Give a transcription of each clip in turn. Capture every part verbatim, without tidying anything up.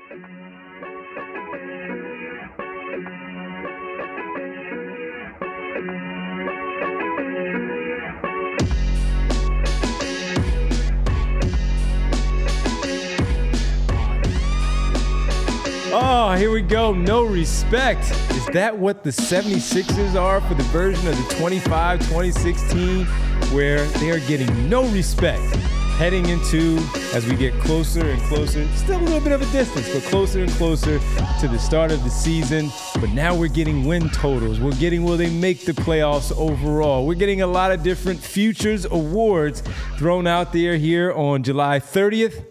Oh, here we go. No respect. Is that what the seventy-sixers are for the version of the twenty-five twenty sixteen where they are getting no respect heading into, as we get closer and closer, still a little bit of a distance, but closer and closer to the start of the season. But now we're getting win totals. We're getting, will they make the playoffs overall? We're getting a lot of different futures awards thrown out there here on July thirtieth.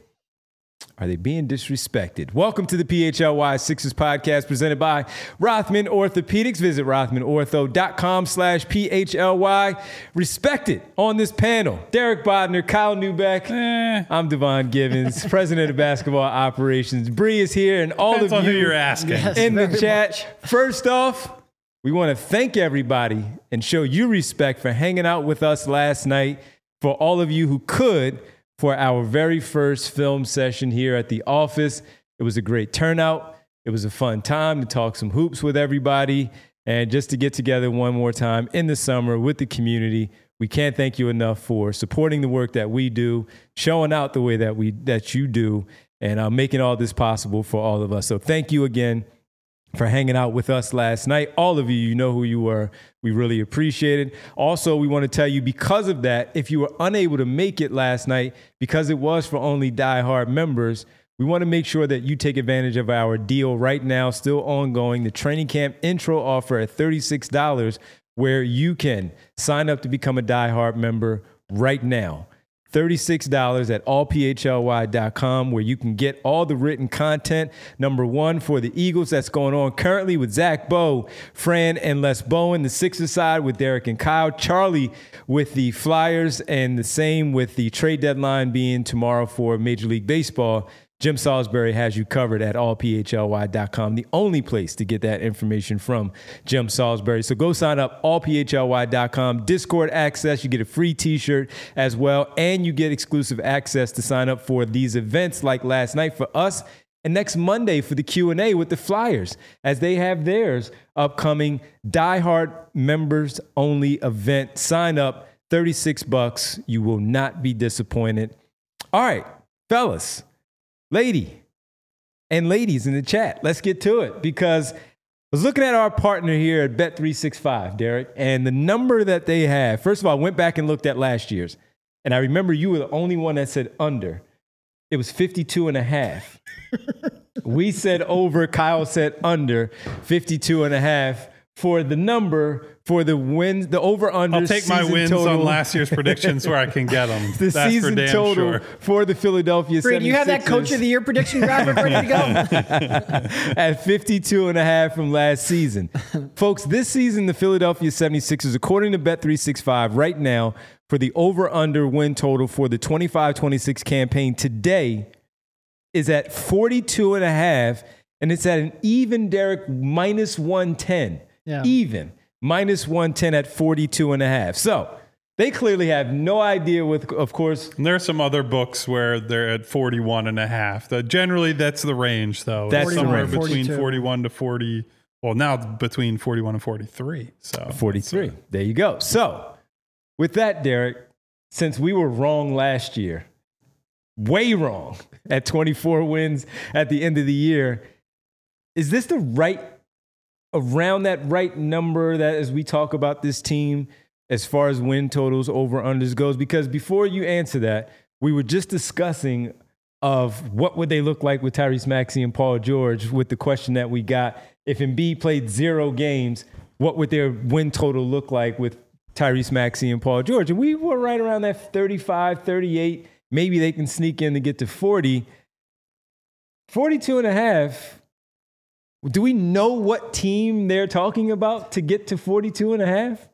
Are they being disrespected? Welcome to the P H L Y Sixers podcast presented by Rothman Orthopedics. Visit rothmanortho.com slash PHLY. Respected on this panel, Derek Bodner, Kyle Neubeck. Eh. I'm Devon Givens, president of basketball operations. Bree is here, and all Depends of on you who you're asking. Yes, in the chat. Much. First off, we want to thank everybody and show you respect for hanging out with us last night. For all of you who could, for our very first film session here at the office. It was a great turnout. It was a fun time to talk some hoops with everybody and just to get together one more time in the summer with the community. We can't thank you enough for supporting the work that we do, showing out the way that we that you do, and uh, making all this possible for all of us. So thank you again for hanging out with us last night. All of you, you know who you were. We really appreciate it. Also, we want to tell you, because of that, if you were unable to make it last night, because it was for only diehard members, we want to make sure that you take advantage of our deal right now, still ongoing, the training camp intro offer at thirty-six dollars, where you can sign up to become a diehard member right now. thirty-six dollars at all p h l y dot com, where you can get all the written content. Number one, for the Eagles, that's going on currently with Zach Bowe, Fran, and Les Bowen. The Sixers side with Derek and Kyle. Charlie with the Flyers, and the same with the trade deadline being tomorrow for Major League Baseball. Jim Salisbury has you covered at all p h l y dot com, the only place to get that information from Jim Salisbury. So go sign up, all p h l y dot com. Discord access, you get a free t-shirt as well, and you get exclusive access to sign up for these events like last night for us, and next Monday for the Q and A with the Flyers, as they have theirs upcoming diehard members only event. Sign up, thirty-six bucks. You will not be disappointed. All right, fellas. Lady and ladies in the chat, let's get to it, because I was looking at our partner here at Bet three sixty-five, Derek, and the number that they have. First of all, I went back and looked at last year's, and I remember you were the only one that said under. It was fifty-two and a half. We said over, Kyle said under, fifty-two and a half for the number for the wins, the over-under. I'll take my wins total. on last year's predictions where I can get them. The That's season for damn total sure. for the Philadelphia Bree, seventy-sixers. do you have that Coach of the Year prediction graphic ready to go? At fifty-two and a half from last season. Folks, this season, the Philadelphia seventy-sixers, according to Bet three sixty-five, right now, for the over-under win total for the twenty-five twenty-six campaign today is at forty-two and a half, and it's at an even, Derek, minus one ten. Yeah. Even. Minus one ten at forty-two and a half. So they clearly have no idea with, of course. And there are some other books where they're at forty-one and a half. The, generally, that's the range, though. That's somewhere the range. between forty-two. forty-one to forty. Well, now between forty-one and forty-three. So forty-three. There you go. So with that, Derek, since we were wrong last year, way wrong at twenty-four wins at the end of the year, is this the right, around that right number that as we talk about this team as far as win totals, over-unders goes? Because before you answer that, we were just discussing of what would they look like with Tyrese Maxey and Paul George, with the question that we got. If Embiid played zero games, what would their win total look like with Tyrese Maxey and Paul George? And we were right around that thirty-five, thirty-eight. Maybe they can sneak in to get to forty. forty-two and a half. Do we know what team they're talking about to get to forty-two and a half?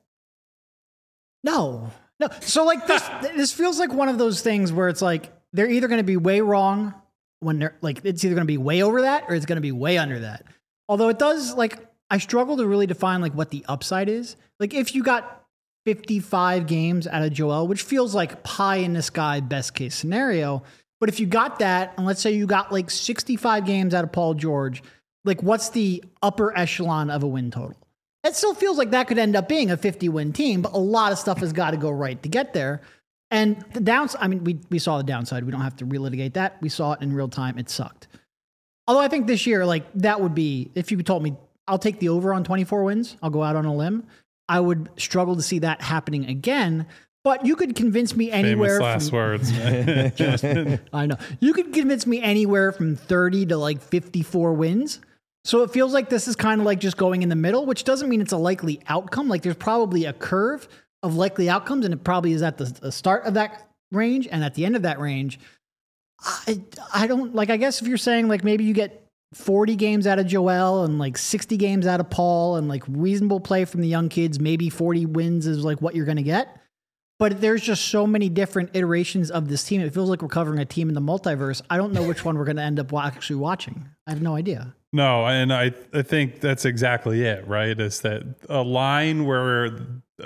No, no. So like this, this feels like one of those things where it's like they're either going to be way wrong when they're like, it's either going to be way over that or it's going to be way under that. Although it does, like, I struggle to really define like what the upside is. Like if you got fifty-five games out of Joel, which feels like pie in the sky best case scenario, but But if you got that, and let's say you got like sixty-five games out of Paul George, like what's the upper echelon of a win total? It still feels like that could end up being a fifty-win team, but a lot of stuff has got to go right to get there. And the downside, I mean, we, we saw the downside. We don't have to relitigate that. We saw it in real time. It sucked. Although I think this year, like that would be, if you told me, I'll take the over on twenty-four wins, I'll go out on a limb, I would struggle to see that happening again. But you could convince me anywhere. Famous last from, words. just, I know. You could convince me anywhere from thirty to like fifty-four wins. So it feels like this is kind of like just going in the middle, which doesn't mean it's a likely outcome. Like there's probably a curve of likely outcomes, and it probably is at the, the start of that range and at the end of that range. I, I don't like, I guess if you're saying like maybe you get forty games out of Joel and like sixty games out of Paul and like reasonable play from the young kids, maybe forty wins is like what you're going to get. But there's just so many different iterations of this team. It feels like we're covering a team in the multiverse. I don't know which one we're going to end up actually watching. I have no idea. No, and I, I think that's exactly it, right? Is that a line where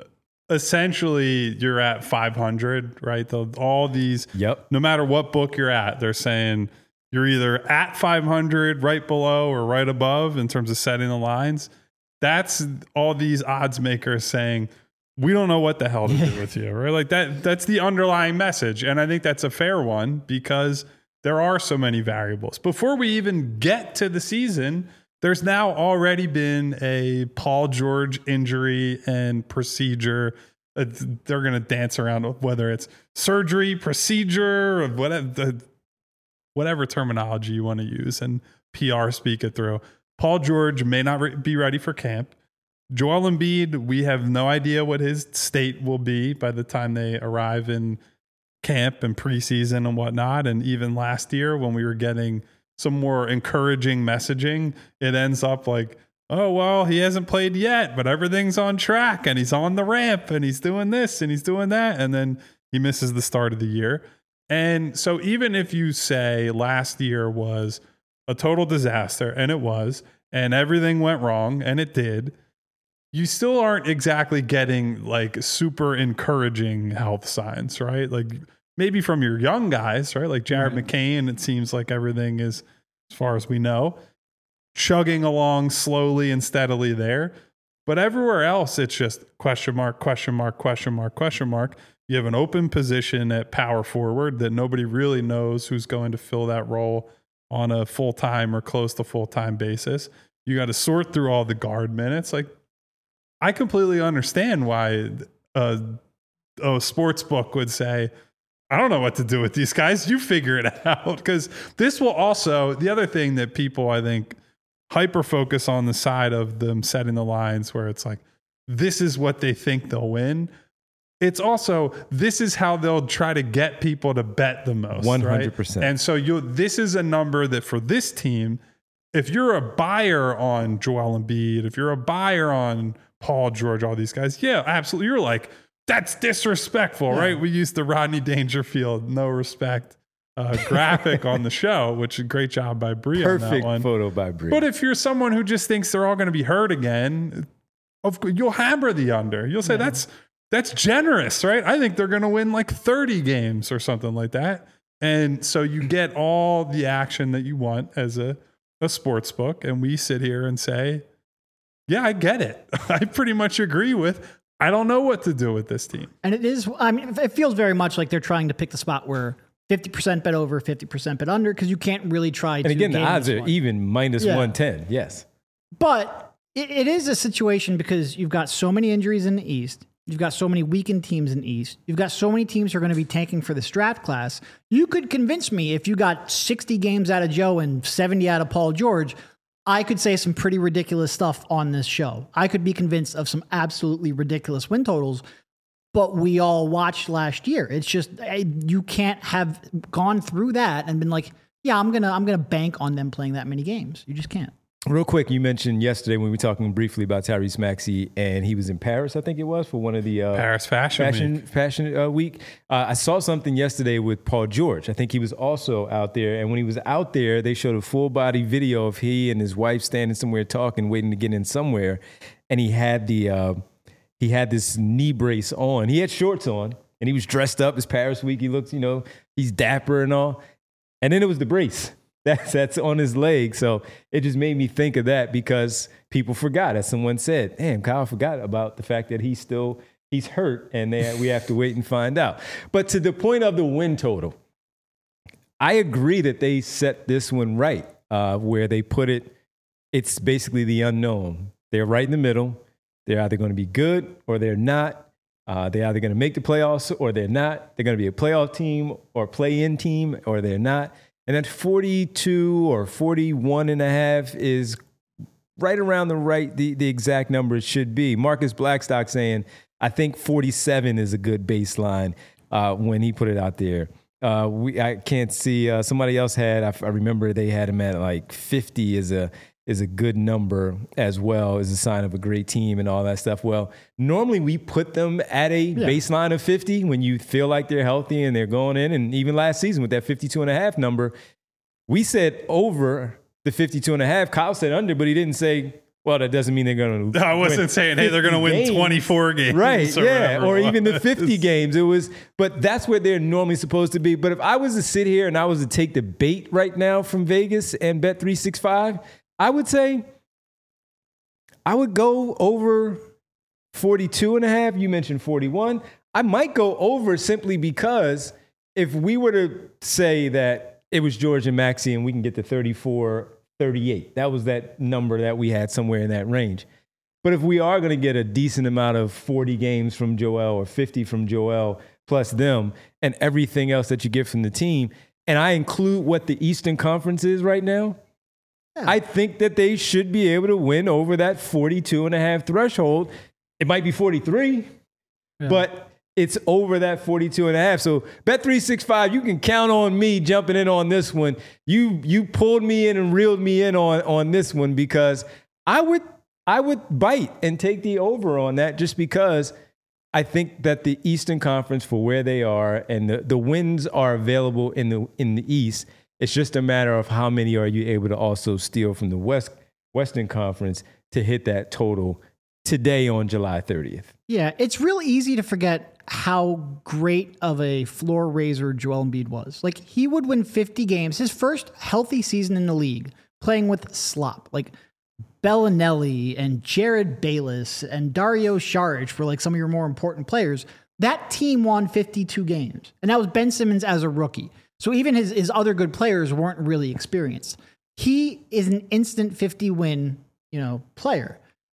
essentially you're at five hundred, right? The, all these, yep. No matter what book you're at, they're saying you're either at five hundred, right below, or right above in terms of setting the lines. That's all these odds makers saying, we don't know what the hell to do with you, right? Like that, that's the underlying message. And I think that's a fair one because there are so many variables. Before we even get to the season, there's now already been a Paul George injury and procedure. Uh, they're going to dance around whether it's surgery, procedure, or whatever, whatever terminology you want to use and P R speak it through. Paul George may not re- be ready for camp. Joel Embiid, we have no idea what his state will be by the time they arrive in camp and preseason and whatnot. And even last year when we were getting some more encouraging messaging, it ends up like, oh, well, he hasn't played yet, but everything's on track and he's on the ramp and he's doing this and he's doing that. And then he misses the start of the year. And so even if you say last year was a total disaster, and it was, and everything went wrong, and it did, you still aren't exactly getting like super encouraging health signs, right? Like maybe from your young guys, right? Like Jared Right. McCain, it seems like everything is, as far as we know, chugging along slowly and steadily there. But everywhere else, it's just question mark, question mark, question mark, question mark. You have an open position at power forward that nobody really knows who's going to fill that role on a full-time or close to full-time basis. You got to sort through all the guard minutes. Like, I completely understand why a, a sports book would say, I don't know what to do with these guys. You figure it out. Because this will also, the other thing that people, I think, hyper focus on the side of them setting the lines where it's like, this is what they think they'll win. It's also, this is how they'll try to get people to bet the most. one hundred percent. Right? And so you, this is a number that for this team, if you're a buyer on Joel Embiid, if you're a buyer on Paul George, all these guys, yeah, absolutely. You're like, that's disrespectful, yeah. Right? We used the Rodney Dangerfield, no respect uh, graphic on the show, which is a great job by Bree on that Perfect one. photo by Bree. But if you're someone who just thinks they're all going to be hurt again, of course, you'll hammer the under. You'll say, yeah. that's that's generous, right? I think they're going to win like thirty games or something like that. And so you get all the action that you want as a, a sports book. And we sit here and say, yeah, I get it. I pretty much agree with, I don't know what to do with this team. And it is, I mean, it feels very much like they're trying to pick the spot where fifty percent bet over, fifty percent bet under, because you can't really try and to. And again, the odds are one. even minus yeah. one ten. Yes. But it, it is a situation because you've got so many injuries in the East. You've got so many weakened teams in the East. You've got so many teams who are going to be tanking for this draft class. You could convince me if you got sixty games out of Joe and seventy out of Paul George, I could say some pretty ridiculous stuff on this show. I could be convinced of some absolutely ridiculous win totals, but we all watched last year. It's just, you can't have gone through that and been like, yeah, I'm going to, I'm going to bank on them playing that many games. You just can't. Real quick, you mentioned yesterday when we were talking briefly about Tyrese Maxey, and he was in Paris, I think it was, for one of the uh, Paris Fashion, Fashion Week. Fashion uh, Week. Uh, I saw something yesterday with Paul George. I think he was also out there, and when he was out there, they showed a full body video of he and his wife standing somewhere talking, waiting to get in somewhere, and he had the uh, he had this knee brace on. He had shorts on, and he was dressed up. It's Paris Week. He looks, you know, he's dapper and all. And then it was the brace. That's, that's on his leg. So it just made me think of that because people forgot. As someone said, damn, Kyle forgot about the fact that he's still, he's hurt and they, we have to wait and find out. But to the point of the win total, I agree that they set this one right, uh, where they put it, it's basically the unknown. They're right in the middle. They're either going to be good or they're not. Uh, they're either going to make the playoffs or they're not. They're going to be a playoff team or play-in team or they're not. And then forty-two or forty-one and a half is right around the right, the, the exact number it should be. Marcus Blackstock saying, I think forty-seven is a good baseline uh, when he put it out there. Uh, we I can't see, uh, somebody else had, I, I remember they had him at like fifty is a is a good number as well, as a sign of a great team and all that stuff. Well, normally we put them at a yeah. baseline of fifty when you feel like they're healthy and they're going in. And even last season with that fifty-two and a half number, we said over the fifty-two and a half. Kyle said under, but he didn't say, well, that doesn't mean they're going to I wasn't saying, hey, they're going to win games. twenty-four games. Right, or yeah, or even the was. fifty games. It was, but that's where they're normally supposed to be. But if I was to sit here and I was to take the bait right now from Vegas and Bet three sixty-five, I would say I would go over forty-two and a half. You mentioned forty-one. I might go over simply because if we were to say that it was George and Maxey and we can get to thirty-four, thirty-eight, that was that number that we had somewhere in that range. But if we are going to get a decent amount of forty games from Joel or fifty from Joel plus them and everything else that you get from the team, and I include what the Eastern Conference is right now, I think that they should be able to win over that forty-two and a half threshold. It might be forty-three, yeah. but it's over that forty-two and a half. So Bet three sixty-five, you can count on me jumping in on this one. You you pulled me in and reeled me in on, on this one because I would I would bite and take the over on that just because I think that the Eastern Conference, for where they are and the, the wins are available in the in the East, it's just a matter of how many are you able to also steal from the West Western Conference to hit that total today on July thirtieth. Yeah, it's real easy to forget how great of a floor raiser Joel Embiid was. Like, he would win fifty games, his first healthy season in the league, playing with slop. Like, Bellinelli and Jared Bayless and Dario Saric were like some of your more important players. That team won fifty-two games, and that was Ben Simmons as a rookie. So even his, his other good players weren't really experienced. He is an instant fifty win, you know, player.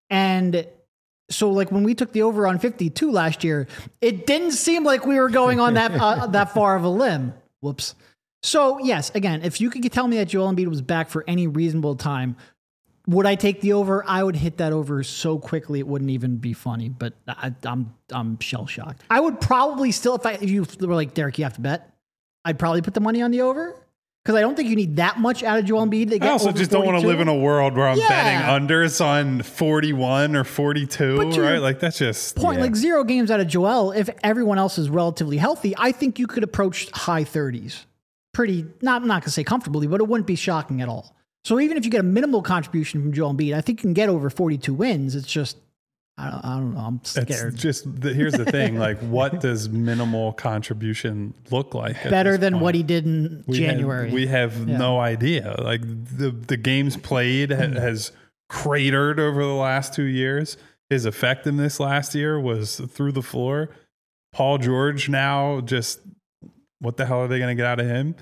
And so like when we took the over on fifty-two last year, it didn't seem like we were going on that, uh, that far of a limb. Whoops. So yes, again, if you could tell me that Joel Embiid was back for any reasonable time, would I take the over? I would hit that over so quickly it wouldn't even be funny, but I, I'm, I'm shell shocked. I would probably still, if I, if you were like, Derek, you have to bet, I'd probably put the money on the over because I don't think you need that much out of Joel Embiid to get I also over just forty-two. don't want to live in a world where I'm yeah. betting unders on forty-one or forty-two, right? Like that's just point. Yeah. Like zero games out of Joel. If everyone else is relatively healthy, I think you could approach high thirties. Pretty, not I'm not gonna say comfortably, but it wouldn't be shocking at all. So even if you get a minimal contribution from Joel Embiid, I think you can get over forty-two wins. It's just I don't, I don't know. I'm scared. It's just the, here's the thing. Like, what does minimal contribution look like? Better than point? what he did in we January. Have, we have yeah. no idea. Like the the games played ha- has cratered over the last two years. His effectiveness last year was through the floor. Paul George now just what the hell are they going to get out of him?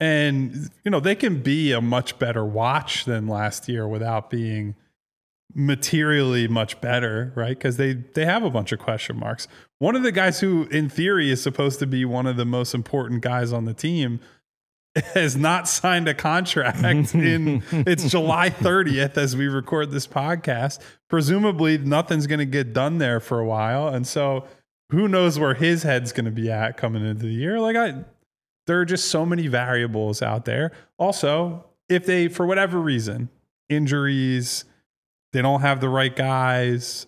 And you know they can be a much better watch than last year without being materially much better, right? Because they they have a bunch of question marks. One of the guys who in theory is supposed to be one of the most important guys on the team has not signed a contract in it's July thirtieth as we record this podcast. Presumably nothing's going to get done there for a while, and so who knows where his head's going to be at coming into the year. Like I there are just so many variables out there. Also, if they for whatever reason, injuries, they don't have the right guys,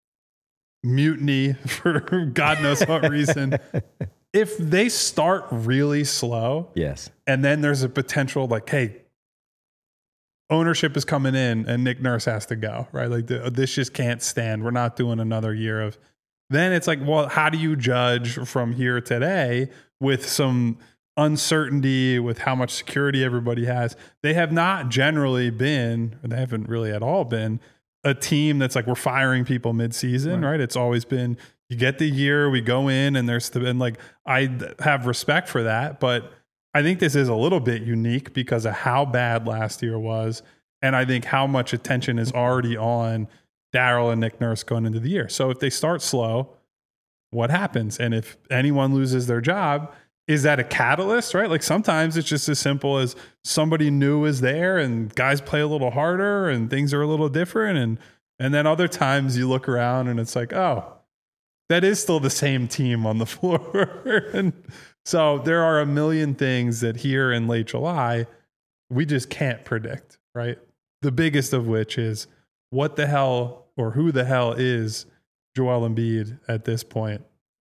mutiny for God knows what reason. If they start really slow, yes, and then there's a potential like, hey, ownership is coming in and Nick Nurse has to go, right? Like the, this just can't stand. We're not doing another year of. Then it's like, well, how do you judge from here today with some uncertainty with how much security everybody has. They have not generally been, or they haven't really at all been, a team that's like, we're firing people mid-season, right? right? It's always been, you get the year, we go in, and there's the, and like, I have respect for that, but I think this is a little bit unique because of how bad last year was. And I think how much attention is already on Daryl and Nick Nurse going into the year. So if they start slow, what happens? And if anyone loses their job, is that a catalyst, right? Like sometimes it's just as simple as somebody new is there and guys play a little harder and things are a little different. And, and then other times you look around and it's like, oh, that is still the same team on the floor. And so there are a million things that here in late July, we just can't predict, right? The biggest of which is what the hell or who the hell is Joel Embiid at this point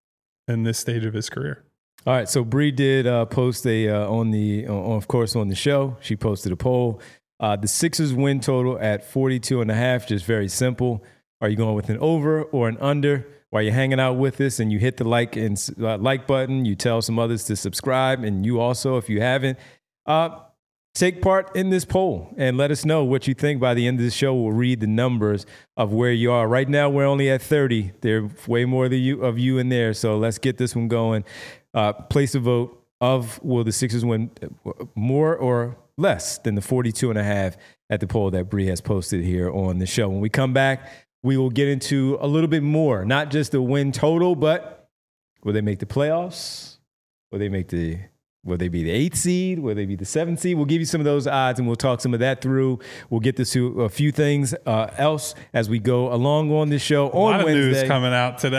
in this stage of his career. All right, so Bree did uh, post a uh, on the, uh, of course, on the show. She posted a poll. Uh, the Sixers win total at forty-two and a half, just very simple. Are you going with an over or an under? While you're hanging out with us and you hit the like and uh, like button, you tell some others to subscribe, and you also, if you haven't, uh, take part in this poll and let us know what you think. By the end of the show, we'll read the numbers of where you are. Right now, we're only at thirty. There's way more of you, of you in there, so let's get this one going. Uh, place a vote of will the Sixers win more or less than the forty-two and a half at the poll that Bree has posted here on the show. When we come back, we will get into a little bit more, not just the win total, but will they make the playoffs? Will they make the Will they be the eighth seed? Will they be the seventh seed? We'll give you some of those odds, and we'll talk some of that through. We'll get to a few things uh, else as we go along on this show a on lot of Wednesday. News coming out today.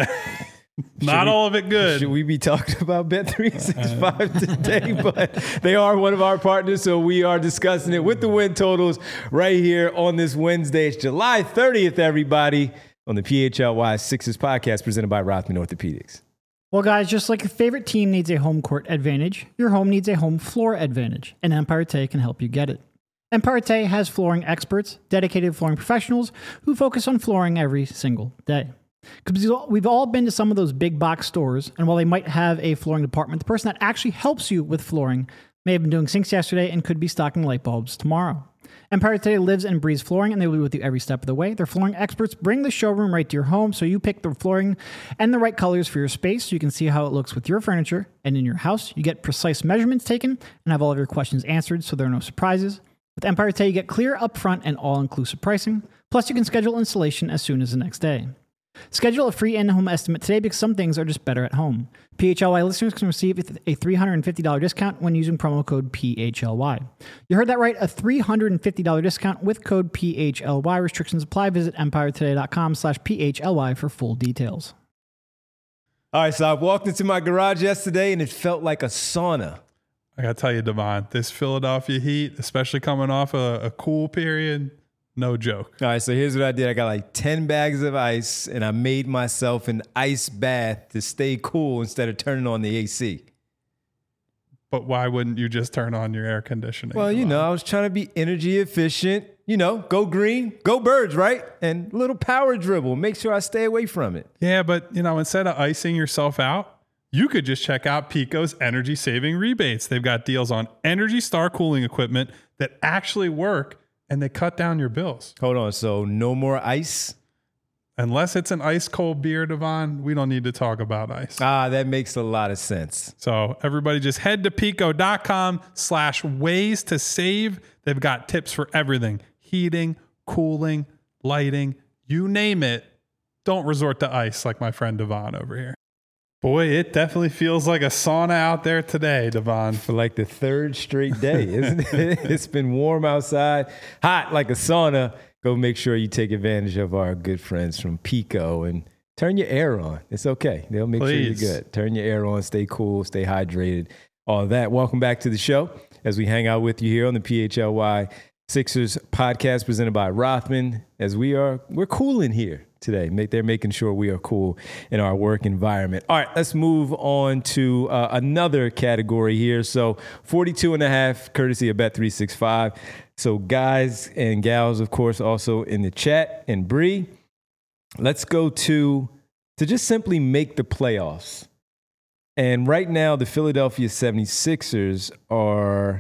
Not we, all of it good. Should we be talking about Bet three sixty-five today? But they are one of our partners, so we are discussing it with the win totals right here on this Wednesday. It's July thirtieth, everybody, on the P H L Y Sixers podcast presented by Rothman Orthopedics. Well, guys, just like your favorite team needs a home court advantage, your home needs a home floor advantage, and Empire Tay can help you get it. Empire Tay has flooring experts, dedicated flooring professionals who focus on flooring every single day. Because we've all been to some of those big box stores, and while they might have a flooring department, the person that actually helps you with flooring may have been doing sinks yesterday and could be stocking light bulbs tomorrow. Empire Today lives and breathes flooring, and they will be with you every step of the way. Their flooring experts bring the showroom right to your home, so you pick the flooring and the right colors for your space so you can see how it looks with your furniture and in your house. You get precise measurements taken and have all of your questions answered, so there are no surprises. With Empire Today, you get clear upfront and all-inclusive pricing. Plus, you can schedule installation as soon as the next day. Schedule a free in-home estimate today because some things are just better at home. P H L Y listeners can receive a three hundred fifty dollars discount when using promo code P H L Y. You heard that right, a three hundred fifty dollars discount with code P H L Y. Restrictions apply. Visit empiretoday.com slash PHLY for full details. All right, so I walked into my garage yesterday and it felt like a sauna. I got to tell you, Devon, this Philadelphia heat, especially coming off a, a cool period, no joke. All right, so here's what I did. I got like ten bags of ice, and I made myself an ice bath to stay cool instead of turning on the A C. But why wouldn't you just turn on your air conditioning? Well, you know, I was trying to be energy efficient. You know, go green, go birds, right? And a little power dribble. Make sure I stay away from it. Yeah, but, you know, instead of icing yourself out, you could just check out Pico's energy-saving rebates. They've got deals on Energy Star cooling equipment that actually work, and they cut down your bills. Hold on. So no more ice? Unless it's an ice cold beer, Devon, we don't need to talk about ice. Ah, that makes a lot of sense. So everybody just head to pico.com slash ways to save. They've got tips for everything. Heating, cooling, lighting, you name it. Don't resort to ice like my friend Devon over here. Boy, it definitely feels like a sauna out there today, Devon. For like the third straight day, isn't it? It's been warm outside, hot like a sauna. Go make sure you take advantage of our good friends from Pico and turn your air on. It's okay. They'll make Please. sure you're good. Turn your air on, stay cool, stay hydrated, all of that. Welcome back to the show as we hang out with you here on the P H L Y Sixers podcast presented by Rothman. As we are, we're cool in here today. They're making sure we are cool in our work environment. All right, let's move on to uh, another category here. So forty-two and a half, courtesy of Bet three sixty-five. So guys and gals, of course, also in the chat. And Bree, let's go to, to just simply make the playoffs. And right now, the Philadelphia seventy-sixers are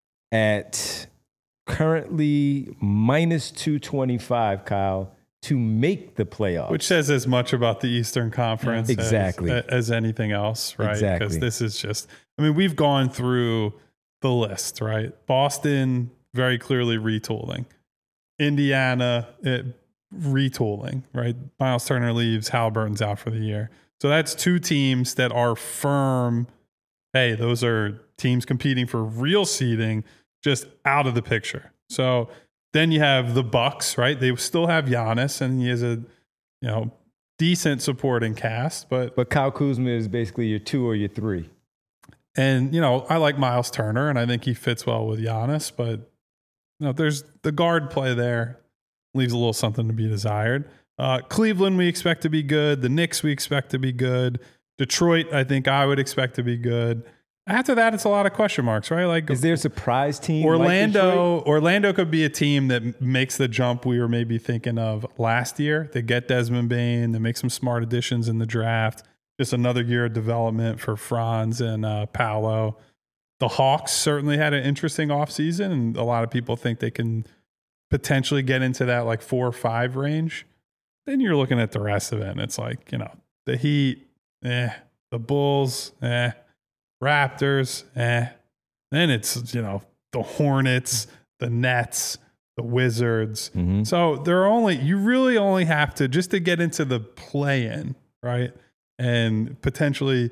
at currently minus two twenty-five, Kyle, to make the playoffs. Which says as much about the Eastern Conference exactly. as, as anything else, right? Exactly. Because this is just, I mean, we've gone through the list, right? Boston, very clearly retooling. Indiana, it, retooling, right? Miles Turner leaves, Halliburton's out for the year. So that's two teams that are firm. Hey, those are teams competing for real seeding, just out of the picture. So then you have the Bucks, right? They still have Giannis, and he has a, you know, decent supporting cast, but But Kyle Kuzma is basically your two or your three. and you know, I like Miles Turner, and I think he fits well with Giannis, but you know, there's the guard play there, leaves a little something to be desired. Uh, Cleveland, we expect to be good. The Knicks, we expect to be good. Detroit, I think I would expect to be good. After that, it's a lot of question marks, right? Like, Is there a surprise team? Orlando, Like Orlando could be a team that makes the jump we were maybe thinking of last year. They get Desmond Bane, they make some smart additions in the draft. Just another year of development for Franz and uh, Paolo. The Hawks certainly had an interesting offseason, and a lot of people think they can potentially get into that like four or five range. Then you're looking at the rest of it, and it's like, you know, the Heat, eh, the Bulls, eh, Raptors, eh. Then it's, you know, the Hornets, the Nets, the Wizards. Mm-hmm. So there are only, you really only have to, just to get into the play-in, right? And potentially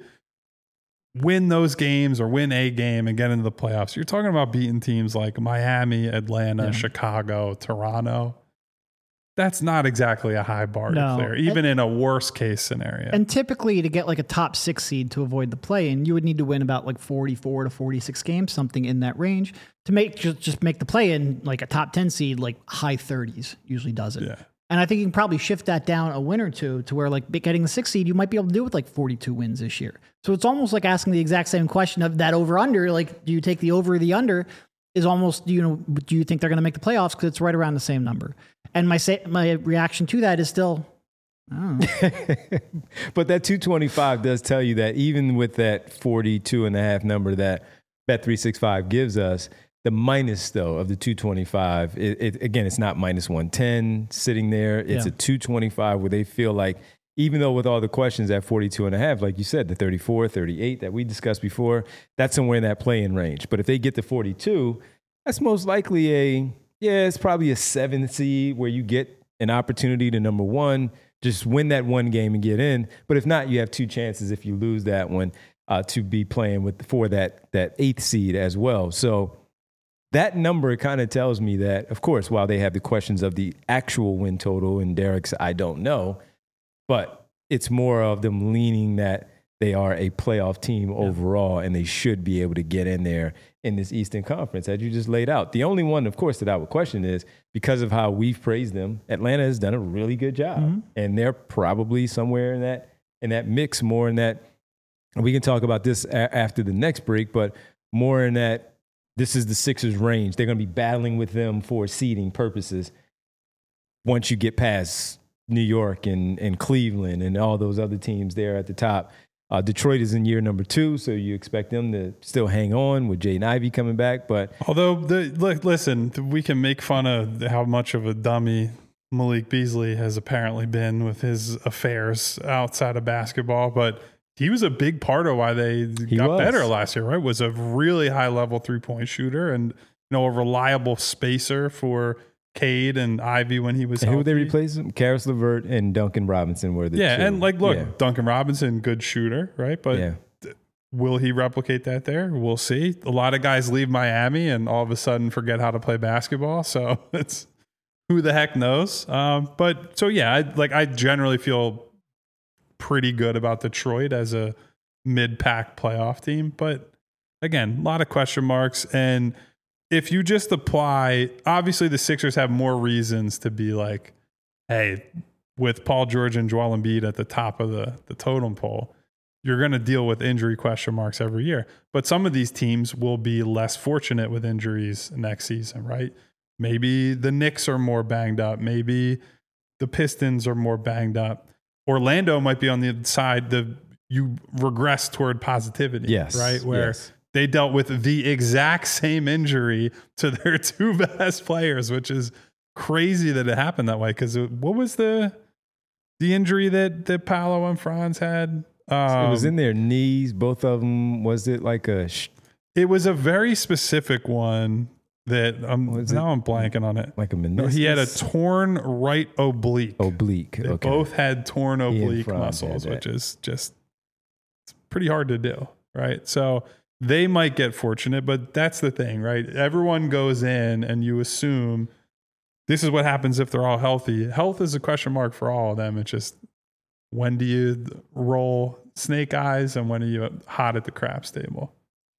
win those games or win a game and get into the playoffs. You're talking about beating teams like Miami, Atlanta, Yeah. Chicago, Toronto. That's not exactly a high bar No. to clear, even in a worst case scenario. And typically, to get like a top six seed to avoid the play-in, you would need to win about like forty-four to forty-six games, something in that range, to make just, just make the play-in like a top ten seed, like high thirties usually does it. Yeah. And I think you can probably shift that down a win or two to where like getting the sixth seed, you might be able to do with like forty-two wins this year. So it's almost like asking the exact same question of that over-under. Like, do you take the over or the under? Is almost, you know, do you think they're going to make the playoffs? Because it's right around the same number. And my say, my reaction to that is still, I don't know. But that two twenty-five does tell you that even with that forty-two and a half number that Bet three sixty-five gives us, the minus though of the two twenty-five, it, it, again, it's not minus one ten sitting there. It's Yeah. a two twenty-five where they feel like, even though with all the questions at forty-two and a half, like you said, the thirty-four, thirty-eight that we discussed before, that's somewhere in that play-in range. But if they get to forty-two, that's most likely a, yeah, it's probably a seven seed where you get an opportunity to, number one, just win that one game and get in. But if not, you have two chances if you lose that one uh, to be playing with for that that eighth seed as well. So that number kind of tells me that, of course, while they have the questions of the actual win total and Derek's, I don't know, but it's more of them leaning that they are a playoff team overall, and they should be able to get in there in this Eastern Conference, as you just laid out. The only one, of course, that I would question is, because of how we've praised them, Atlanta has done a really good job, Mm-hmm. and they're probably somewhere in that in that mix, more in that. And we can talk about this a- after the next break, but more in that this is the Sixers' range. They're going to be battling with them for seeding purposes once you get past New York and, and Cleveland and all those other teams there at the top. Uh, Detroit is in year number two, so you expect them to still hang on with Jaden Ivey coming back. But Although, the, look, listen, we can make fun of how much of a dummy Malik Beasley has apparently been with his affairs outside of basketball, but he was a big part of why they got was. better last year, right? Was a really high level three point shooter and, you know, a reliable spacer for Cade and Ivy when he was and who healthy. would they replace him? Karis LeVert and Duncan Robinson were the Yeah, two. and like, look, Yeah. Duncan Robinson, good shooter, right? But Yeah. will he replicate that there? We'll see. A lot of guys leave Miami and all of a sudden forget how to play basketball. So it's who the heck knows. Um, but so yeah, I, like I generally feel pretty good about Detroit as a mid-pack playoff team. But again, a lot of question marks. And if you just apply, obviously the Sixers have more reasons to be like, hey, with Paul George and Joel Embiid at the top of the, the totem pole, you're going to deal with injury question marks every year. But some of these teams will be less fortunate with injuries next season, right? Maybe the Knicks are more banged up. Maybe the Pistons are more banged up. Orlando might be on the side, the you regress toward positivity. Yes. Right. Where yes. they dealt with the exact same injury to their two best players, which is crazy that it happened that way. Because what was the the injury that that Paolo and Franz had? Um, it was in their knees, both of them. Was it like a? Sh- it was a very specific one that I'm Was now it? I'm blanking on it. like a No, meniscus? he had a torn right oblique. oblique. They Okay. both had torn He and oblique Franz had muscles, that. which is just it's pretty hard to do, right? So they might get fortunate, but that's the thing, right? Everyone goes in and you assume this is what happens if they're all healthy. Health is a question mark for all of them. It's just when do you roll snake eyes and when are you hot at the craps table?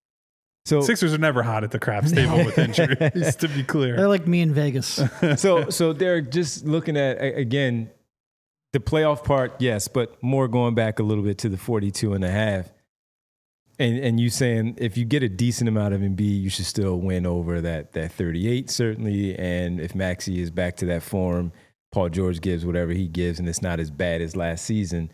So Sixers are never hot at the craps table with injuries, to be clear. They're like me in Vegas. so so they're just looking at a- again the playoff part, yes, but more going back a little bit to the forty-two and a half. And and you saying if you get a decent amount of Embiid, you should still win over that that thirty-eight certainly. And if Maxey is back to that form, Paul George gives whatever he gives, and it's not as bad as last season.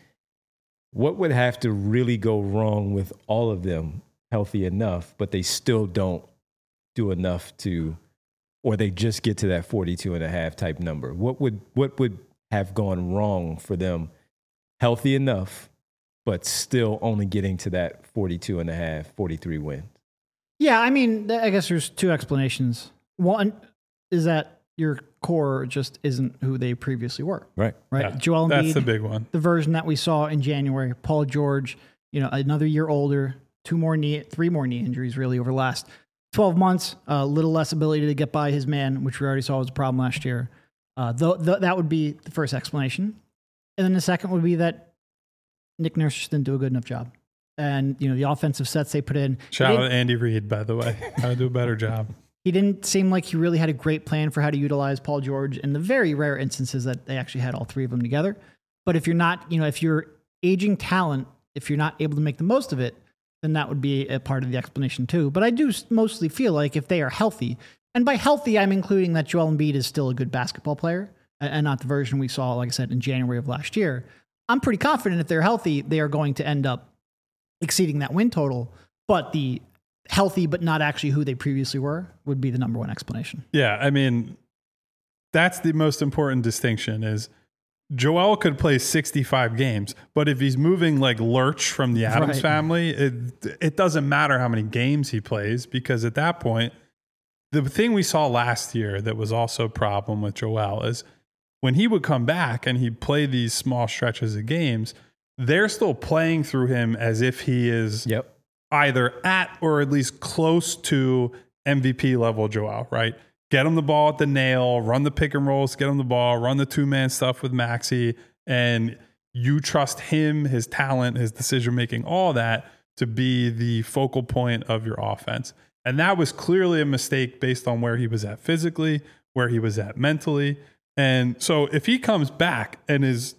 What would have to really go wrong with all of them healthy enough, but they still don't do enough to, or they just get to that forty-two and a half type number? What would what would have gone wrong for them healthy enough, but still only getting to that forty-two and a half, forty-three wins? Yeah, I mean, th- I guess there's two explanations. One is that your core just isn't who they previously were, Right. right? Yeah, Joel Embiid, that's the big one. the version that we saw in January. Paul George, you know, another year older, two more knee, three more knee injuries really over the last twelve months. A uh, little less ability to get by his man, which we already saw was a problem last year. Uh, th- th- that would be the first explanation, and then the second would be that Nick Nurse just didn't do a good enough job. And, you know, the offensive sets they put in. Shout they out to Andy Reid, by the way. How to do a better job. He didn't seem like he really had a great plan for how to utilize Paul George in the very rare instances that they actually had all three of them together. But if you're not, you know, if you're aging talent, if you're not able to make the most of it, then that would be a part of the explanation too. But I do mostly feel like if they are healthy, and by healthy, I'm including that Joel Embiid is still a good basketball player and not the version we saw, like I said, in January of last year. I'm pretty confident if they're healthy, they are going to end up exceeding that win total. But the healthy but not actually who they previously were would be the number one explanation. Yeah, I mean, that's the most important distinction is Joel could play sixty-five games, but if he's moving like Lurch from the Adams Right. family, it it doesn't matter how many games he plays because at that point, the thing we saw last year that was also a problem with Joel is when he would come back and he'd play these small stretches of games, they're still playing through him as if he is Yep. either at or at least close to M V P level Joel, right? Get him the ball at the nail, run the pick and rolls, get him the ball, run the two-man stuff with Maxey, and you trust him, his talent, his decision-making, all that to be the focal point of your offense. And that was clearly a mistake based on where he was at physically, where he was at mentally. And so if he comes back and is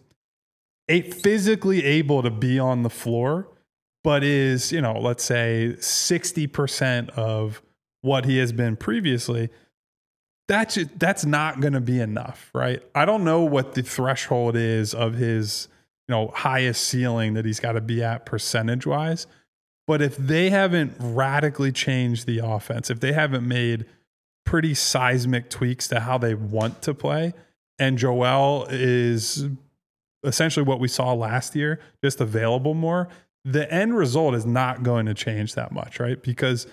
a- physically able to be on the floor, but is, you know, let's say sixty percent of what he has been previously, that's that's not going to be enough, right? I don't know what the threshold is of his, you know, highest ceiling that he's got to be at percentage wise. But if they haven't radically changed the offense, if they haven't made pretty seismic tweaks to how they want to play, and Joel is essentially what we saw last year, just available more, the end result is not going to change that much, right? Because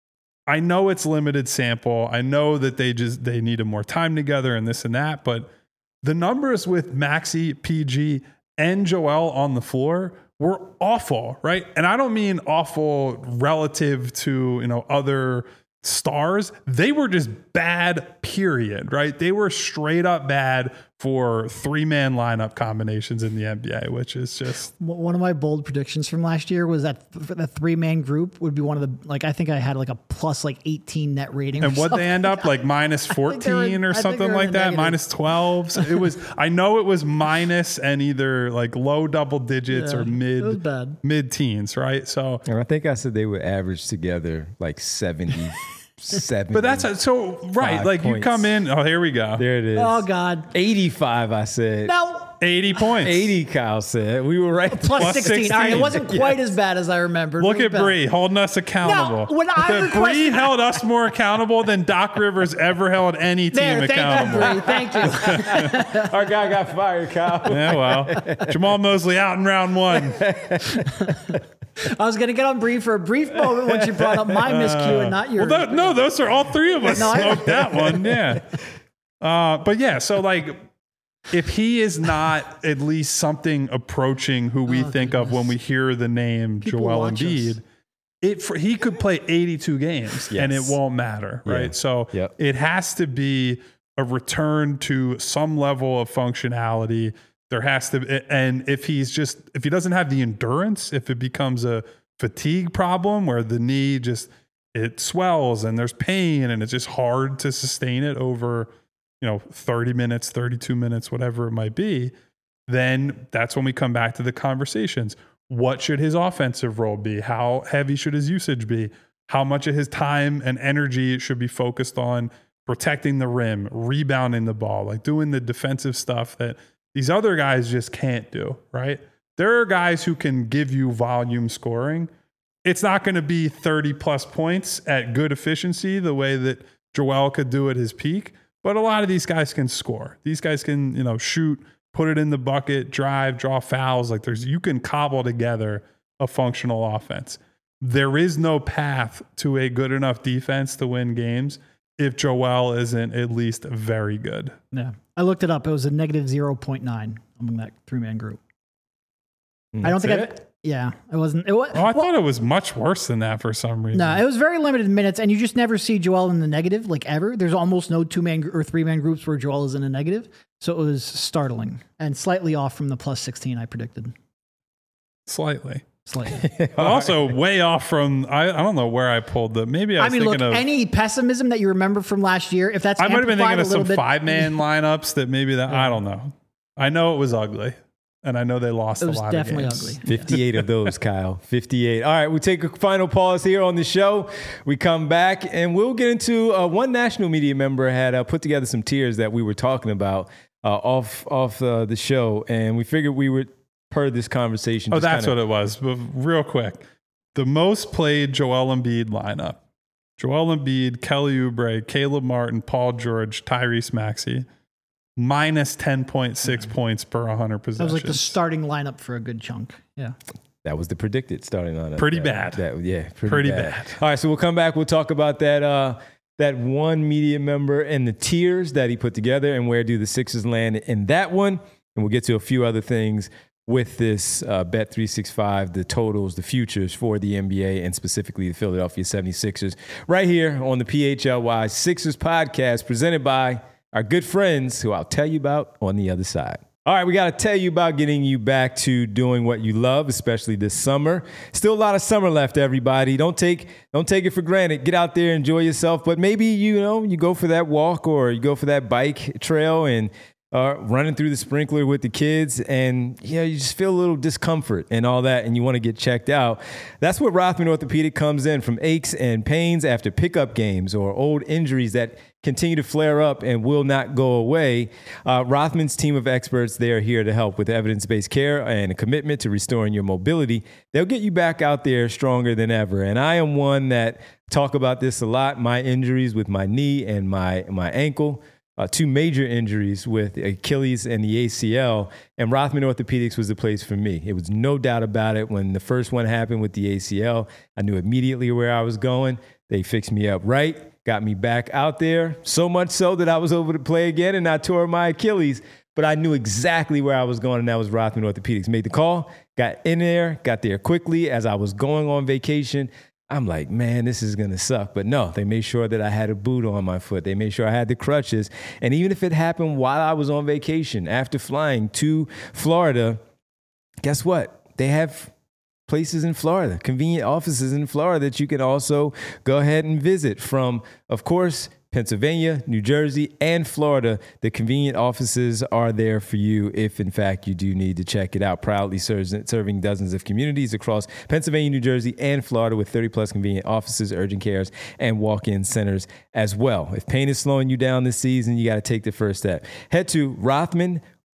I know it's limited sample. I know that they just they needed more time together and this and that, but the numbers with Maxey, P G, and Joel on the floor were awful, right? And I don't mean awful relative to, you know, other stars. They were just bad, period, right? They were straight up bad for three-man lineup combinations in the N B A, which is just... One of my bold predictions from last year was that the three-man group would be one of the, like, I think I had like a plus like eighteen net rating. And what they end up like minus fourteen or something like that, minus twelve. So it was, I know it was minus and either like low double digits Yeah, or mid, it was bad. mid teens, right? So, And I think I said they would average together like seventy, seventy. but that's so right. Five Like you points. come in, oh, here we go. There it is. Oh God. eighty-five, I said. Now, eighty points. eighty, Kyle said. We were right. Plus, Plus sixteen. sixteen. All right, it wasn't quite as bad as I remembered. Look It was at bad. Bree holding us accountable. when I Bree requested- held us more accountable than Doc Rivers ever held any team There, accountable. thank you, Bree. Thank you. Our guy got fired, Kyle. Yeah, well, Jamal Mosley out in round one. I was going to get on Bree for a brief moment when she brought up my miscue and not yours. Well, that, no, those are all three of us No, I- smoked that one. Yeah. Uh, but yeah, so like, if he is not at least something approaching who we Oh, think of when we hear the name People Joel watch Embiid, us. it for, he could play eighty-two games and it Yes. won't matter, right? Yeah. So Yep. it has to be a return to some level of functionality. There has to, and if he's just, if he doesn't have the endurance, if it becomes a fatigue problem where the knee just, it swells and there's pain and it's just hard to sustain it over, you know, thirty minutes, thirty-two minutes, whatever it might be, then that's when we come back to the conversations. What should his offensive role be? How heavy should his usage be? How much of his time and energy should be focused on protecting the rim, rebounding the ball, like doing the defensive stuff that these other guys just can't do, right? There are guys who can give you volume scoring. It's not going to be thirty plus points at good efficiency the way that Joel could do at his peak, but a lot of these guys can score. These guys can, you know, shoot, put it in the bucket, drive, draw fouls. Like there's, you can cobble together a functional offense. There is no path to a good enough defense to win games if Joel isn't at least very good. Yeah. I looked it up. It was a negative zero point nine among that three man group. I don't think I've, it? yeah, it wasn't, it was, Oh, I thought it was much worse than that for some reason. no, it was very limited minutes, and you just never see Joel in the negative, like ever. There's almost no two man or three man groups where Joel is in a negative. So it was startling and slightly off from the plus sixteen I predicted. Slightly. Slightly. But also way off from, I, I don't know where I pulled the, maybe I I was mean, look, thinking of, any pessimism that you remember from last year, if that's I might have been amplified thinking of a little some bit, five man lineups that maybe that, I don't know. I know it was ugly and I know they lost it a was lot definitely of games. ugly. fifty-eight of those, Kyle. fifty-eight. All right, we take a final pause here on the show. We come back and we'll get into uh, one national media member had uh, put together some tiers that we were talking about uh, off off uh, the show, and we figured we would per this conversation. Oh, just that's kinda, what it was. But real quick, the most played Joel Embiid lineup: Joel Embiid, Kelly Oubre, Caleb Martin, Paul George, Tyrese Maxey, minus ten point six points per one hundred That possessions. was like the starting lineup for a good chunk. Yeah. That was the predicted starting lineup. Pretty That- bad. that- yeah, pretty, Pretty bad. bad. All right, so we'll come back. We'll talk about that uh, that one media member and the tiers that he put together and where do the Sixers land in that one. And we'll get to a few other things with this uh, Bet three sixty-five, the totals, the futures for the N B A and specifically the Philadelphia seventy-sixers right here on the P H L Y Sixers podcast presented by our good friends who I'll tell you about on the other side. All right, we got to tell you about getting you back to doing what you love, especially this summer. Still a lot of summer left, everybody. Don't take don't take it for granted. Get out there, enjoy yourself. But maybe, you know, you go for that walk or you go for that bike trail and uh, running through the sprinkler with the kids, and you know, you just feel a little discomfort and all that, and you want to get checked out. That's where Rothman Orthopedic comes in. From aches and pains after pickup games or old injuries that continue to flare up and will not go away, uh, Rothman's team of experts, they are here to help with evidence-based care and a commitment to restoring your mobility. They'll get you back out there stronger than ever. And I am one that talk about this a lot. My injuries with my knee and my my ankle. Uh, two major injuries with Achilles and the A C L, and Rothman Orthopedics was the place for me. It was no doubt about it. When the first one happened with the A C L, I knew immediately where I was going. They fixed me up right, got me back out there, so much so that I was able to play again and I tore my Achilles, but I knew exactly where I was going, and that was Rothman Orthopedics. Made the call, got in there, got there quickly as I was going on vacation. I'm like, man, this is going to suck. But no, they made sure that I had a boot on my foot. They made sure I had the crutches. And even if it happened while I was on vacation, after flying to Florida, guess what? They have places in Florida, convenient offices in Florida that you can also go ahead and visit from, of course, Pennsylvania, New Jersey, and Florida. The convenient offices are there for you if, in fact, you do need to check it out. Proudly serving dozens of communities across Pennsylvania, New Jersey, and Florida with thirty plus convenient offices, urgent cares, and walk-in centers as well. If pain is slowing you down this season, you got to take the first step. Head to Rothman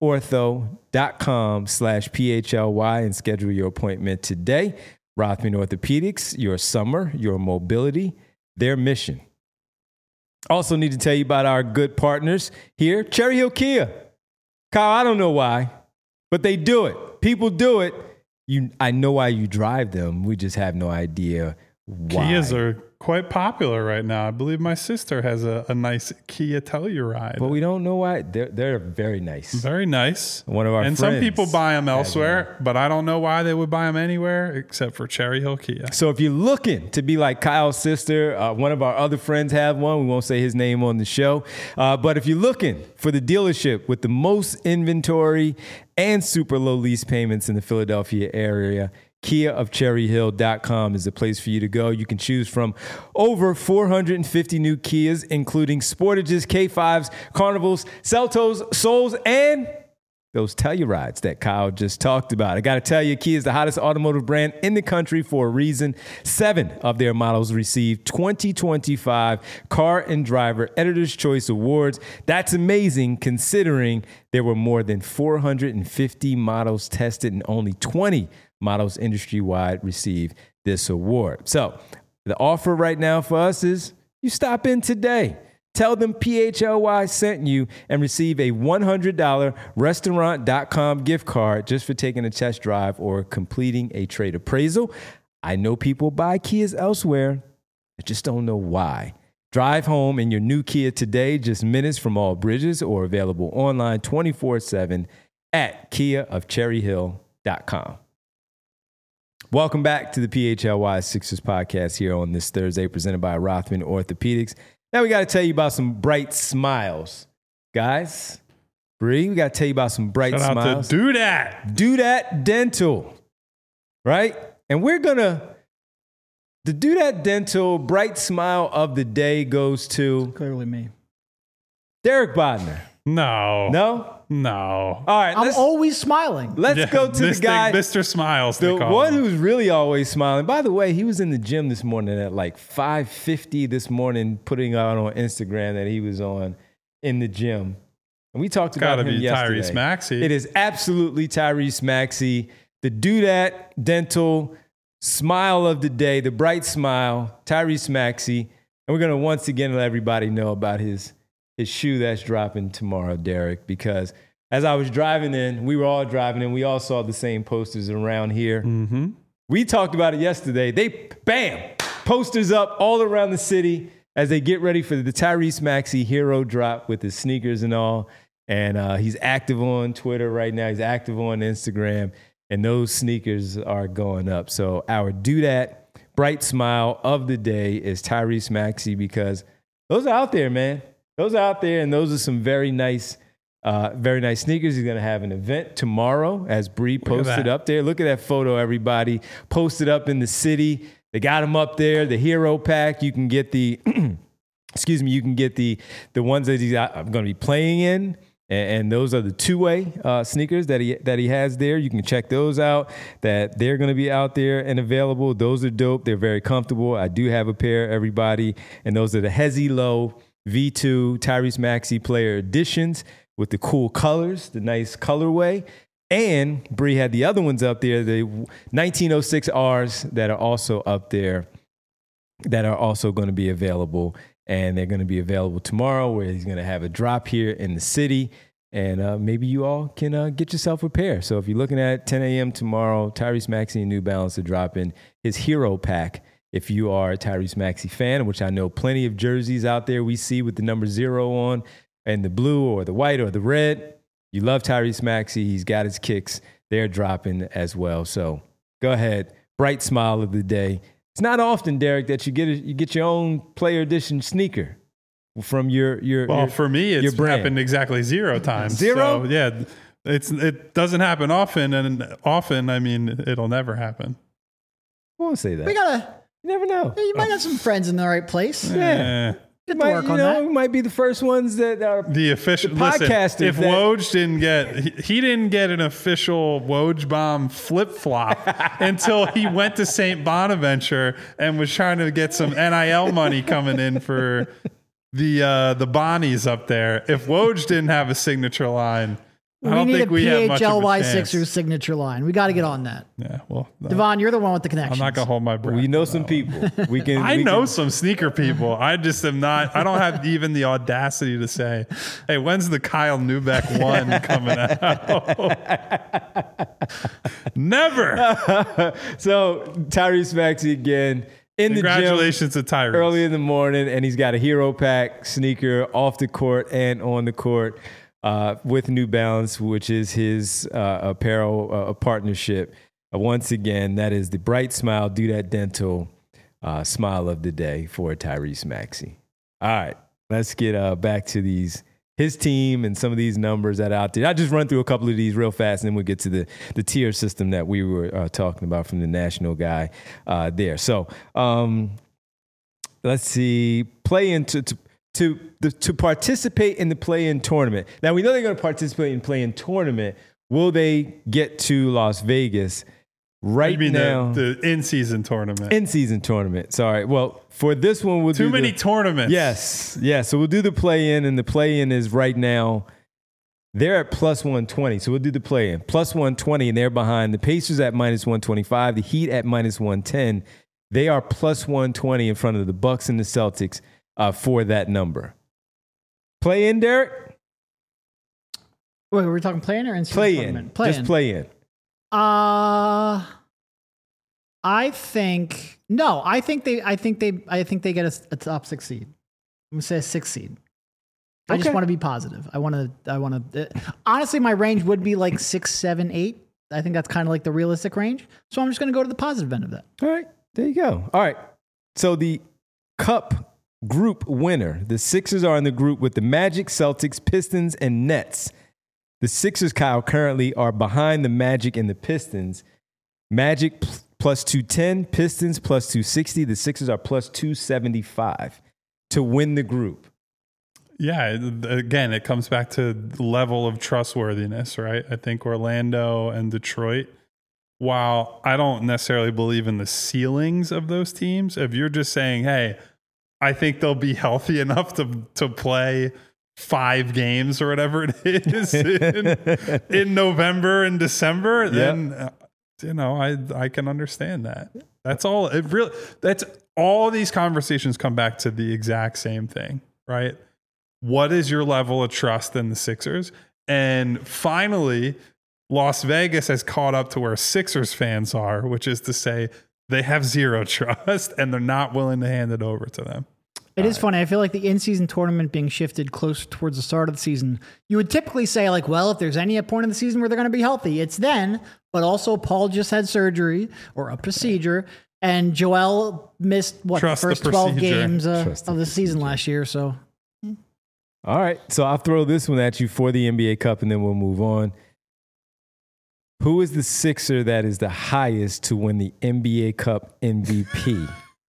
ortho.com slash PHLY and schedule your appointment today. Rothman Orthopedics, your summer, your mobility, their mission. Also need to tell you about our good partners here, Cherry Hill Kia. Kyle, I don't know why, but they do it. People do it. You, I know why you drive them. We just have no idea why. Kias are quite popular right now. I believe my sister has a, a nice Kia Telluride. But we don't know why. They're, they're very nice. Very nice. One of our and friends some people buy them has elsewhere, but I don't know why they would buy them anywhere except for Cherry Hill Kia. So if you're looking to be like Kyle's sister, uh, one of our other friends have one. We won't say his name on the show. Uh, but if you're looking for the dealership with the most inventory and super low lease payments in the Philadelphia area, Kia of Cherry Hill dot com is the place for you to go. You can choose from over four hundred fifty new Kias, including Sportages, K fives, Carnivals, Seltos, Souls, and those Tellurides that Kyle just talked about. I got to tell you, Kia is the hottest automotive brand in the country for a reason. Seven of their models received twenty twenty-five Car and Driver Editor's Choice Awards. That's amazing considering there were more than four hundred fifty models tested and only twenty models industry-wide receive this award. So the offer right now for us is you stop in today. Tell them P H L Y sent you and receive a one hundred dollars restaurant dot com gift card just for taking a test drive or completing a trade appraisal. I know people buy Kias elsewhere. I just don't know why. Drive home in your new Kia today, just minutes from all bridges, or available online twenty-four seven at Kia of Cherry Hill dot com. Welcome back to the P H L Y Sixers podcast here on this Thursday, presented by Rothman Orthopedics. Now we got to tell you about some bright smiles. Guys, Bree, we got to tell you about some bright Shout smiles. out to Do That. Do That Dental, right? And we're going to, the Do That Dental bright smile of the day goes to Clearly me. Derek Bodner. No. No? No. All right, I'm let's, always smiling. let's Yeah, go to Mister the guy. Mister Smiles. they The call one him. who's really always smiling. By the way, he was in the gym this morning at like five fifty this morning, putting out on Instagram that he was on in the gym. And we talked about Gotta him be yesterday. Tyrese Maxey. It is absolutely Tyrese Maxey. The Do That Dental smile of the day, the bright smile, Tyrese Maxey. And we're going to once again let everybody know about his, his shoe that's dropping tomorrow, Derek, because as I was driving in, we were all driving in, we all saw the same posters around here. Mm-hmm. We talked about it yesterday. They, bam, posters up all around the city as they get ready for the Tyrese Maxey hero drop with his sneakers and all. And uh, he's active on Twitter right now. He's active on Instagram. And those sneakers are going up. So our Do That bright smile of the day is Tyrese Maxey, because those are out there, man. Those are out there, and those are some very nice Uh, very nice sneakers. He's going to have an event tomorrow, as Bree posted up there. Look at that photo, everybody. Posted up in the city. They got him up there. The hero pack. You can get the, excuse me, you can get the the ones that he's going to be playing in. And, and those are the two-way uh, sneakers that he that he has there. You can check those out. That they're going to be out there and available. Those are dope. They're very comfortable. I do have a pair, everybody. And those are the Hezi Low V two Tyrese Maxey Player Editions, with the cool colors, the nice colorway. And Bree had the other ones up there, the nineteen oh six R's that are also up there, that are also going to be available. And they're going to be available tomorrow, where he's going to have a drop here in the city. And uh, maybe you all can uh, get yourself a pair. So if you're looking at ten a.m. tomorrow, Tyrese Maxey and New Balance are dropping his hero pack. If you are a Tyrese Maxey fan, which I know plenty of jerseys out there we see with the number zero on, and the blue or the white or the red, you love Tyrese Maxey. He's got his kicks. They're dropping as well. So go ahead. Bright smile of the day. It's not often, Derek, that you get a, you get your own player edition sneaker from your your. Well, your, for me, it's your brand. happened exactly zero times. Zero? So, yeah, it's it doesn't happen often, and often, I mean, it'll never happen. I won't say that. We gotta. You never know. You might have some friends in the right place. Yeah. Eh. Get to Might, work you on know, that. we might be the first ones that are The official The podcasters listen, if that- Woj didn't get he, he didn't get an official Woj bomb flip flop until he went to Saint Bonaventure and was trying to get some N I L money coming in for the uh, the Bonnies up there. If Woj didn't have a signature line, I We don't need think a we have much P H L Y of a chance. Sixers signature line. We got to get on that. Yeah, well, no, Devon, you're the one with the I'm connections. not gonna hold my breath. We know on some that people. We can. one. I we know can- some sneaker people. I just am not. I don't have even the audacity to say, "Hey, when's the Kyle Neubeck one coming out?" Never. So Tyrese Maxey again in the gym Congratulations to Tyrese. early in the morning, and he's got a Hero Pack sneaker off the court and on the court uh, with New Balance, which is his uh, apparel uh, partnership. Uh, once again, that is the Bright Smile Do That Dental uh, smile of the day for Tyrese Maxey. All right, let's get uh, back to these his team and some of these numbers that are out there. I'll just run through a couple of these real fast, and then we'll get to the, the tier system that we were uh, talking about from the national guy uh, there. So um, let's see, play into to to, the, to participate in the play-in tournament. Now, we know they're going to participate in play-in tournament. Will they get to Las Vegas? Right You mean now, the, the in-season tournament? in-season tournament. Sorry. Well, for this one, we'll Too do many the, tournaments. Yes, yeah. So we'll do the play-in, and the play-in is right now. They're at plus one twenty, so we'll do the play-in. Plus one twenty, and they're behind the Pacers at minus one twenty-five, the Heat at minus one ten. They are plus one twenty in front of the Bucks and the Celtics uh, for that number. Play-in, Derek? Wait, were we talking play-in or in-season Play-in. tournament? Play-in. Just play-in. Uh, I think no. I think they. I think they. I think they get a, a top six seed. I'm gonna say a six seed. I just Okay. want to be positive. I want to. I want to. Uh, honestly, my range would be like six, seven, eight. I think that's kind of like the realistic range. So I'm just gonna go to the positive end of that. All right, there you go. All right, so the Cup group winner, the Sixers are in the group with the Magic, Celtics, Pistons, and Nets. The Sixers, Kyle, currently are behind the Magic and the Pistons. Magic p- plus two ten, Pistons plus two sixty. The Sixers are plus two seventy-five to win the group. Yeah, again, it comes back to the level of trustworthiness, right? I think Orlando and Detroit, while I don't necessarily believe in the ceilings of those teams, if you're just saying, hey, I think they'll be healthy enough to to play five games or whatever it is in, in November and December, then uh, you know I I can understand that. That's all. It really. That's all. These conversations come back to the exact same thing, right? What is your level of trust in the Sixers? And finally, Las Vegas has caught up to where Sixers fans are, which is to say they have zero trust and they're not willing to hand it over to them. It is funny. I feel like the in-season tournament being shifted closer towards the start of the season, you would typically say like, well, if there's any point in the season where they're going to be healthy, it's then. But also, Paul just had surgery or a procedure, and Joel missed what Trust the the first twelve procedure. games uh, Trust the of the season last year. So All right, so I'll throw this one at you for the N B A Cup, and then we'll move on. Who is the Sixer that is the highest to win the N B A Cup M V P?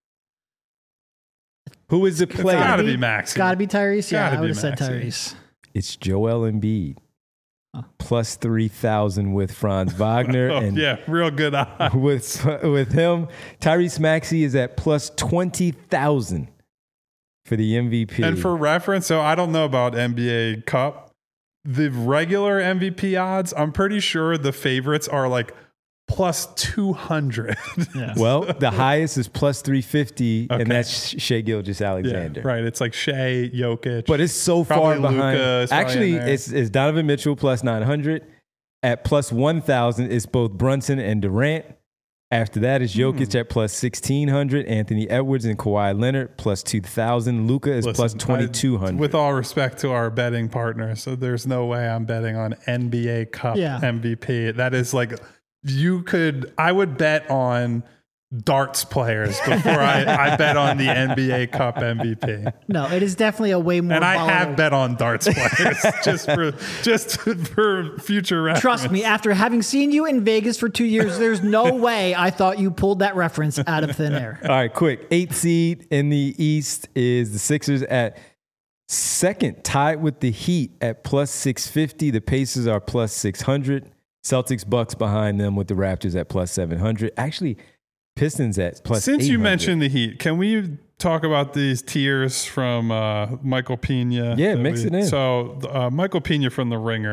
Who is the It's player? gotta be- be Maxey. it's got to be Tyrese. Yeah, Gotta I be would have said Maxey. Tyrese. It's Joel Embiid. Huh. Plus three thousand with Franz Wagner. Oh, and yeah, real good eye. with, with him, Tyrese Maxey is at plus twenty thousand for the M V P. And for reference, so I don't know about N B A Cup. The regular M V P odds, I'm pretty sure the favorites are like plus two hundred. Yeah. well, the highest is plus three fifty, Okay. and that's Shea Gilgeous Alexander. Yeah, right. It's like Shea, Jokic. But it's so Probably far behind. Luka is probably Actually, in there. it's, it's Donovan Mitchell plus nine hundred. At plus one thousand, it's both Brunson and Durant. After that is Jokic Hmm. at plus sixteen hundred. Anthony Edwards and Kawhi Leonard plus two thousand. Luka is Listen, plus twenty-two I- hundred. with all respect to our betting partner, so there's no way I'm betting on N B A Cup Yeah. M V P. That is like, you could, I would bet on darts players before I, I bet on the N B A Cup M V P. No, it is definitely a way more. And I volatile- have bet on darts players just for just for future reference. Trust me, after having seen you in Vegas for two years, there's no way I thought you pulled that reference out of thin air. All right, quick. Eighth seed in the East is the Sixers at second, tied with the Heat at plus six fifty. The Pacers are plus six hundred. Celtics, Bucks behind them with the Raptors at plus seven hundred. Actually, Pistons at plus Since eight hundred. you mentioned the Heat, can we talk about these tiers from uh, Michael Pena? Yeah, that mix we- it in. So uh, Michael Pena from The Ringer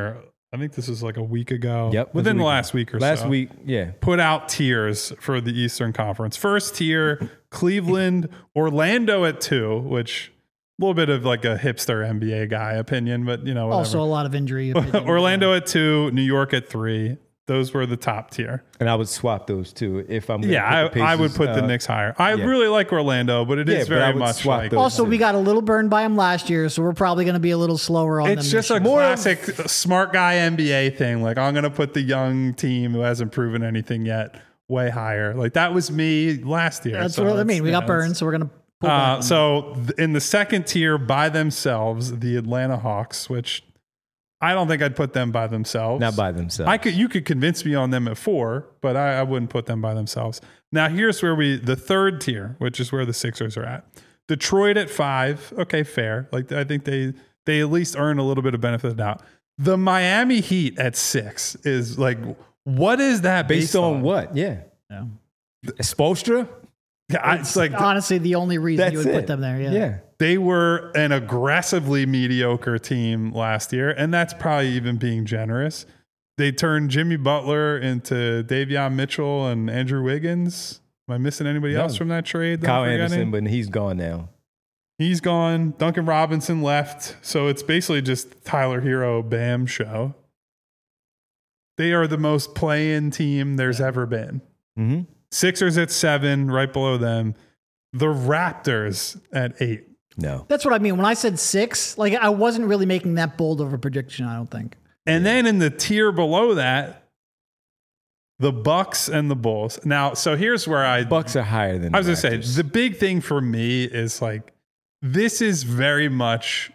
I think this was like a week ago. Yep. Within the week. last week or last so. Last week, yeah. Put out tiers for the Eastern Conference. First tier, Cleveland, Orlando at two, which a little bit of like a hipster N B A guy opinion, but you know, whatever. Also a lot of injury. Orlando at two, New York at three. Those were the top tier. And I would swap those two if I'm gonna Yeah, put the I, I would Pacers, put uh, the Knicks higher. I yeah. really like Orlando, but it Yeah, is but I very would much swap like. those. Also, we got a little burned by them last year, so we're probably going to be a little slower on them. It's this just a year. classic smart guy N B A thing. Like, I'm going to put the young team who hasn't proven anything yet way higher. Like, that was me last year. That's so what I mean. it's- We yeah, got burned, it's- so we're going to pull Uh, back on so th- in the second tier by themselves, the Atlanta Hawks, which I don't think I'd put them by themselves. Not by themselves. I could, you could convince me on them at four, but I, I wouldn't put them by themselves. Now here's where we, the third tier, which is where the Sixers are at. Detroit at five. Okay, fair. Like I think they, they at least earn a little bit of benefit of the doubt. The Miami Heat at six is like, what is that based based, on what? Yeah. Yeah. Spoelstra? I, it's like, Honestly, the only reason That's you would it. put them there. Yeah. Yeah. they were an aggressively mediocre team last year, and that's probably even being generous. They turned Jimmy Butler into Davion Mitchell and Andrew Wiggins. Am I missing anybody No. else from that trade? that Kyle I'm forgetting? Anderson, but he's gone now. He's gone. Duncan Robinson left. So it's basically just Tyler Hero Bam show. They are the most play-in team there's ever been. Mm-hmm. Sixers at seven, right below them. The Raptors at eight. No. That's what I mean. When I said six, like I wasn't really making that bold of a prediction, I don't think. And then in the tier below that, the Bucks and the Bulls. Now, so here's where I Bucks are higher than I was the going to Raptors. say, the big thing for me is like, this is very much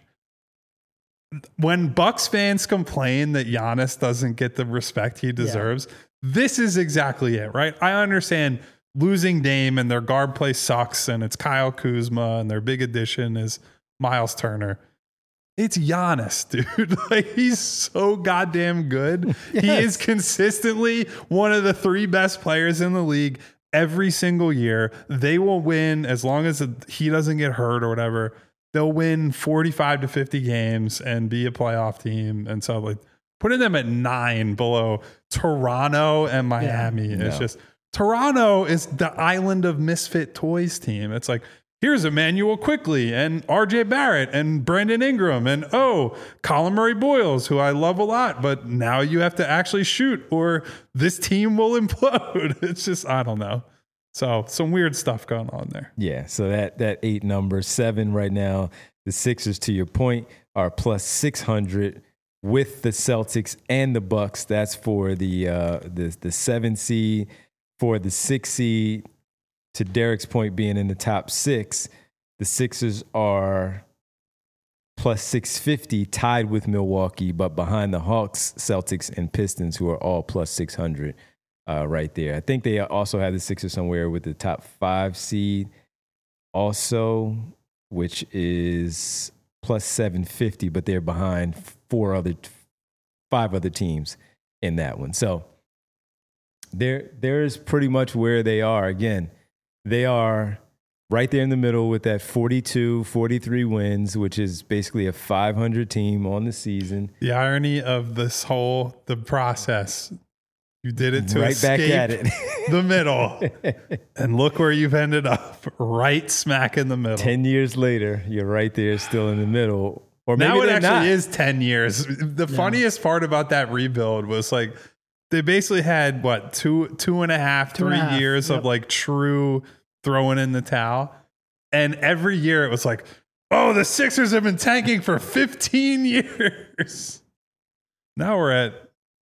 when Bucks fans complain that Giannis doesn't get the respect he deserves. This is exactly it, right? I understand losing Dame and their guard play sucks, and it's Kyle Kuzma, and their big addition is Miles Turner. It's Giannis, dude. Like, he's so goddamn good. Yes. He is consistently one of the three best players in the league every single year. They will win as long as he doesn't get hurt or whatever. They'll win forty-five to fifty games and be a playoff team. And so, like, putting them at nine below Toronto and Miami Yeah, is no. just Toronto is the island of misfit toys team. It's like, here's Emmanuel Quickly and R J Barrett and Brandon Ingram and, oh, Colin Murray Boyles, who I love a lot, but now you have to actually shoot or this team will implode. It's just, I don't know. So some weird stuff going on there. Yeah, so that that eight number, seven right now. The Sixers, to your point, are plus six hundred with the Celtics and the Bucks. That's for the uh, the the seven seed. For the six seed, to Derek's point, being in the top six, the Sixers are plus six fifty, tied with Milwaukee, but behind the Hawks, Celtics, and Pistons, who are all plus six hundred. Uh, right there. I think they also have the Sixers somewhere with the top five seed also, which is plus seven fifty, but they're behind four other, five other teams in that one. So there, there's pretty much where they are. Again, they are right there in the middle with that forty-two, forty-three wins, which is basically a five hundred team on the season. The irony of this whole, the process, you did it to Right escape back at it. the middle. And look where you've ended up, right smack in the middle. Ten years later, you're right there still in the middle. Or maybe Now it they're actually not. is ten years. The funniest part about that rebuild was like, they basically had what, two, two and a half, Two and three a half, years yep. of like true throwing in the towel. And every year it was like, oh, the Sixers have been tanking for fifteen years. Now we're at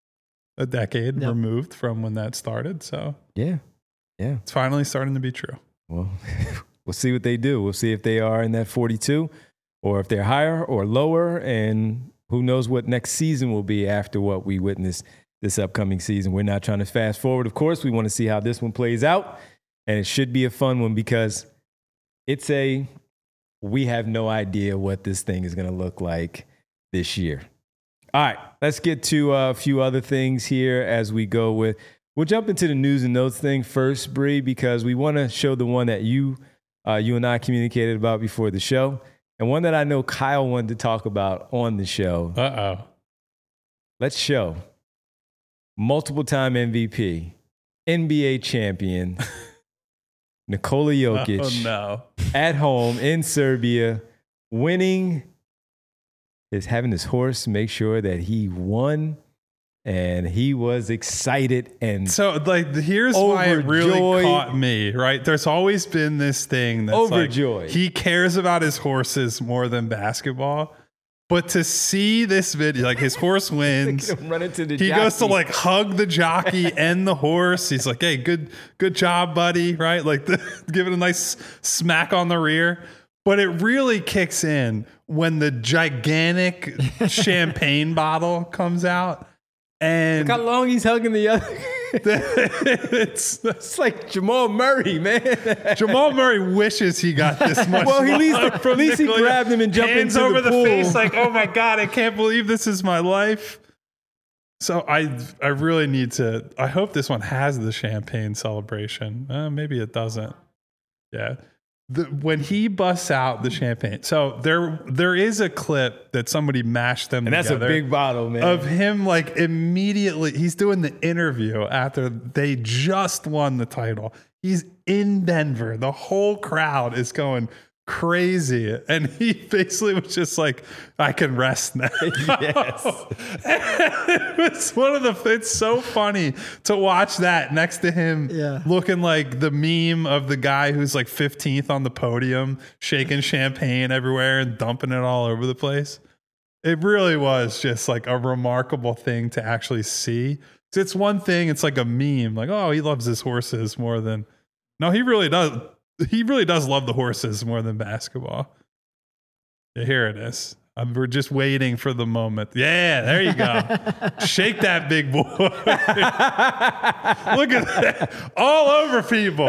a decade Yep. removed from when that started. So Yeah. Yeah. it's finally starting to be true. Well, we'll see what they do. We'll see if they are in that forty-two or if they're higher or lower. And who knows what next season will be after what we witnessed this upcoming season. We're not trying to fast forward. Of course, we want to see how this one plays out. And it should be a fun one because it's a, we have no idea what this thing is going to look like this year. All right, let's get to a few other things here as we go with, we'll jump into the news and notes thing first, Bree, because we want to show the one that you, uh, you and I communicated about before the show, and one that I know Kyle wanted to talk about on the show. Uh-oh. let's show multiple time M V P, N B A champion, Nikola Jokic Oh, no. at home in Serbia, winning, is having his horse make sure that he won. And he was excited and So, like, here's why it really overjoyed. caught me, right? There's always been this thing that's Overjoyed. like, he cares about his horses more than basketball. But to see this video, like, his horse wins. Look at him run into the He goes to jockey. like hug the jockey and the horse. He's like, "Hey, good, good job, buddy!" Right? Like, the, give it a nice smack on the rear. But it really kicks in when the gigantic champagne bottle comes out, and Look how long he's hugging the other. it's It's like Jamal Murray, man. Jamal Murray wishes he got this much. Well, he at least- love at from least he Nikola. grabbed him and jumped Hands into the over the, pool. face, like, "Oh my god, I can't believe this is my life." So I, I really need to. I hope this one has the champagne celebration. Uh, maybe it doesn't. Yeah, the, when he busts out the champagne. So there, there is a clip that somebody mashed them And that's a together big bottle, man. of him, like, immediately. He's doing the interview after they just won the title. He's in Denver. The whole crowd is going crazy, and he basically was just like, "I can rest now." Yes. It's one of the. It's so funny to watch that next to him, Yeah. looking like the meme of the guy who's like fifteenth on the podium, shaking champagne everywhere and dumping it all over the place. It really was just like a remarkable thing to actually see. It's one thing. It's like a meme, like, "Oh, he loves his horses more than." No, he really does. He really does love the horses more than basketball. Yeah, here it is. Um, we're just waiting for the moment. Yeah, there you go. Shake that big boy. Look at that. All over people.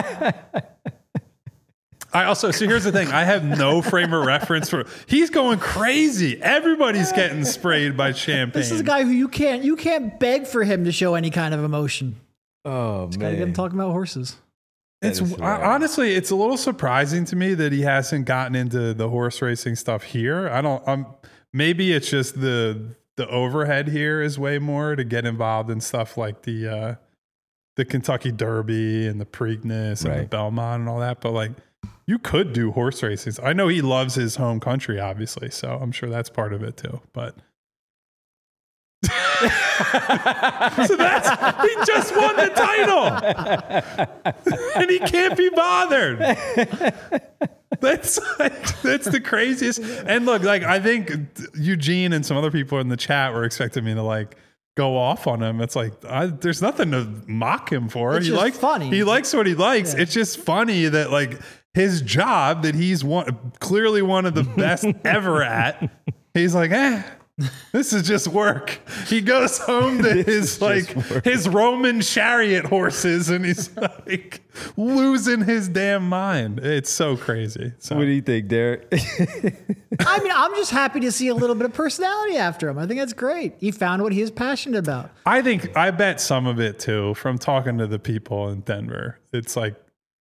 I also, so here's the thing. I have no frame of reference for, he's going crazy. Everybody's getting sprayed by champagne. This is a guy who you can't you can't beg for him to show any kind of emotion. Oh, Gotta man. get him talking about horses. It's That is I- hilarious. honestly, it's a little surprising to me that he hasn't gotten into the horse racing stuff here. I don't. Um, maybe it's just the the overhead here is way more to get involved in stuff like the uh, the Kentucky Derby and the Preakness and the Right. Belmont and all that. But like, you could do horse races. I know he loves his home country, obviously, so I'm sure that's part of it too. But. So that's, he just won the title and he can't be bothered. That's like, that's the craziest. And look, like, I think Eugene and some other people in the chat were expecting me to like go off on him. It's like, I, there's nothing to mock him for. It's he just likes funny. He likes what he likes. Yeah. It's just funny that like his job that he's one, clearly one of the best ever at. He's like, eh. This is just work. He goes home to his like work. his Roman chariot horses, and he's like losing his damn mind. It's so crazy. So What do you think, Derek? I mean, I'm just happy to see a little bit of personality after him. I think that's great. He found what he is passionate about. I think I bet some of it too from talking to the people in Denver. It's like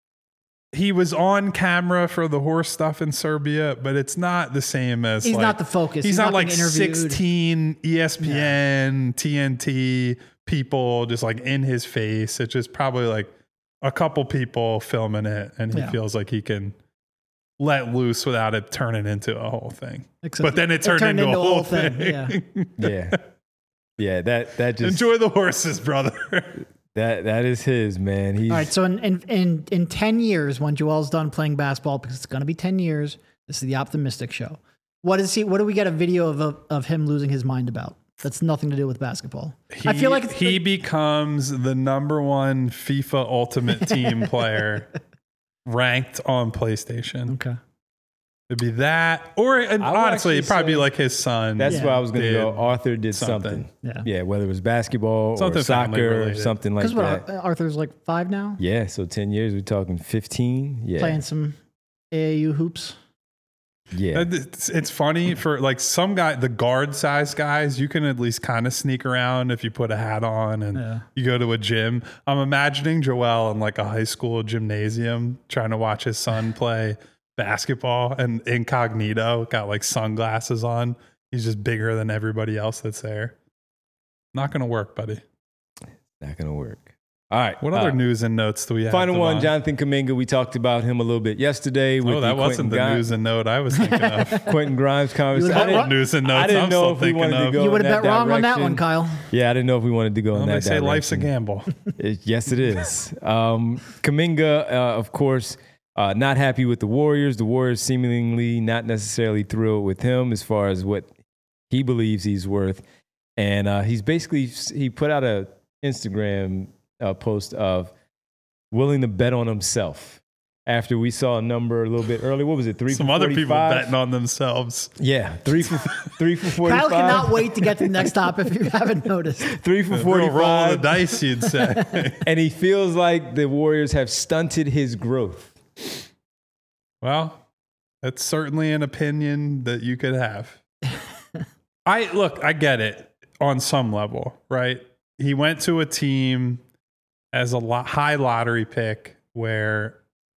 he was on camera for the horse stuff in Serbia, but it's not the same as He's like- not the focus. He's, He's not, not like being interviewed. sixteen E S P N, T N T people just like in his face. It's just probably like a couple people filming it, and he Yeah. feels like he can let loose without it turning into a whole thing. Except But then it turned, into, a whole thing. Yeah. Yeah. Yeah, that that just Enjoy the horses, brother. that that is his, man. He's All right. So in, in in in ten years, when Joel's done playing basketball, because it's going to be ten years, this is the optimistic show. What is he? What do we get a video of of, of him losing his mind about? That's nothing to do with basketball. He, I feel like it's he becomes the number one FIFA Ultimate Team player ranked on PlayStation. okay. It'd be that, or and I would honestly, it'd actually probably be say like his son. that's Yeah. where I was gonna Did go. Arthur did something. something. Yeah. Yeah, whether it was basketball Something or family soccer or related. something like Because what that. Arthur's like five now, Yeah, so ten years, we're talking fifteen. Yeah. playing some A A U hoops. Yeah. Uh, It's, it's funny for like some guy, the guard size guys, you can at least kind of sneak around if you put a hat on and Yeah. you go to a gym. I'm imagining Joel in like a high school gymnasium trying to watch his son play basketball and incognito, got like sunglasses on. He's just bigger than everybody else that's there. Not going to work, buddy. Not going to work. All right. What other uh, news and notes do we have? Final one, Devon? Jonathan Kuminga. We talked about him a little bit yesterday. With Oh, that the wasn't the Quentin news and note I was thinking of. Grimes, Quentin Grimes conversation. You I didn't, news and notes I didn't I'm know still if we thinking wanted to of. go You would in have that bet wrong on that direction. one, Kyle. Yeah, I didn't know if we wanted to go Well, in they that say direction. life's a gamble. It- yes, it is. Um, Kuminga, uh, of course, uh, not happy with the Warriors. The Warriors seemingly not necessarily thrilled with him as far as what he believes he's worth. And uh, he's basically, he put out a Instagram uh, post of willing to bet on himself. After we saw a number a little bit earlier, what was it? Three Some for other people forty-five? betting on themselves. Yeah, three for three for forty-five. Kyle cannot wait to get to the next stop if you haven't noticed. Three for Real roll of the forty-five, dice, you'd say. and he feels like the Warriors have stunted his growth. Well, that's certainly an opinion that you could have. I look, I get it on some level, right? He went to a team as a lo- high lottery pick where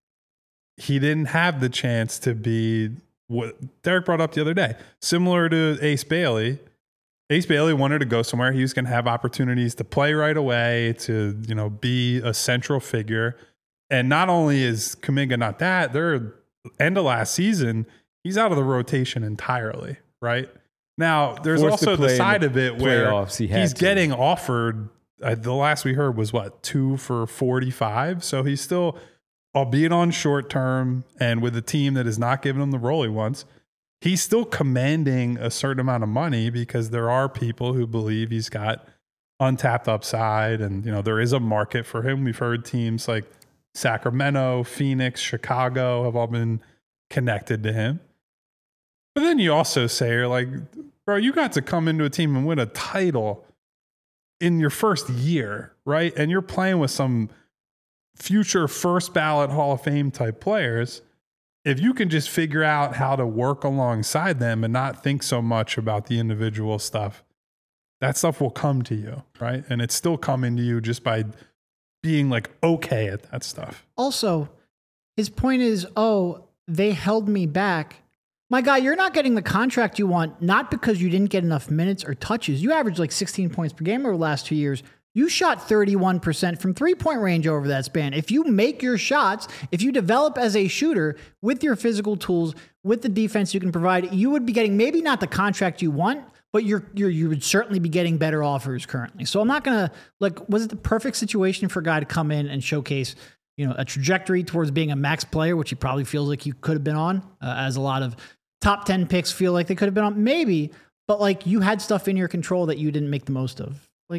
he didn't have the chance to be what Derek brought up the other day. Similar to Ace Bailey. Ace Bailey wanted to go somewhere. He was going to have opportunities to play right away, to, you know, be a central figure. And not only is Kuminga not that, they're end of last season, he's out of the rotation entirely, right? Now, there's Forced to also the play in side the of it where playoffs, he had he's to. getting offered, uh, the last we heard was what, two for forty-five? So he's still, albeit on short term and with a team that is not giving him the role he wants, he's still commanding a certain amount of money because there are people who believe he's got untapped upside, and you know there is a market for him. We've heard teams like Sacramento, Phoenix, Chicago have all been connected to him. But then you also say, you're like, bro, you got to come into a team and win a title in your first year, right? And you're playing with some future first ballot Hall of Fame type players. If you can just figure out how to work alongside them and not think so much about the individual stuff, that stuff will come to you, right? And it's still coming to you just by being like okay at that stuff. Also, his point is, oh, they held me back. My guy, you're not getting the contract you want, not because you didn't get enough minutes or touches. You averaged like sixteen points per game over the last two years. You shot thirty-one percent from three-point range over that span. If you make your shots, if you develop as a shooter with your physical tools, with the defense you can provide, you would be getting maybe not the contract you want, but you're, you're you would certainly be getting better offers currently. So I'm not going to, like, was it the perfect situation for a guy to come in and showcase, you know, a trajectory towards being a max player, which he probably feels like he could have been on, uh, as a lot of top ten picks feel like they could have been on? Maybe, but like you had stuff in your control that you didn't make the most of. Like,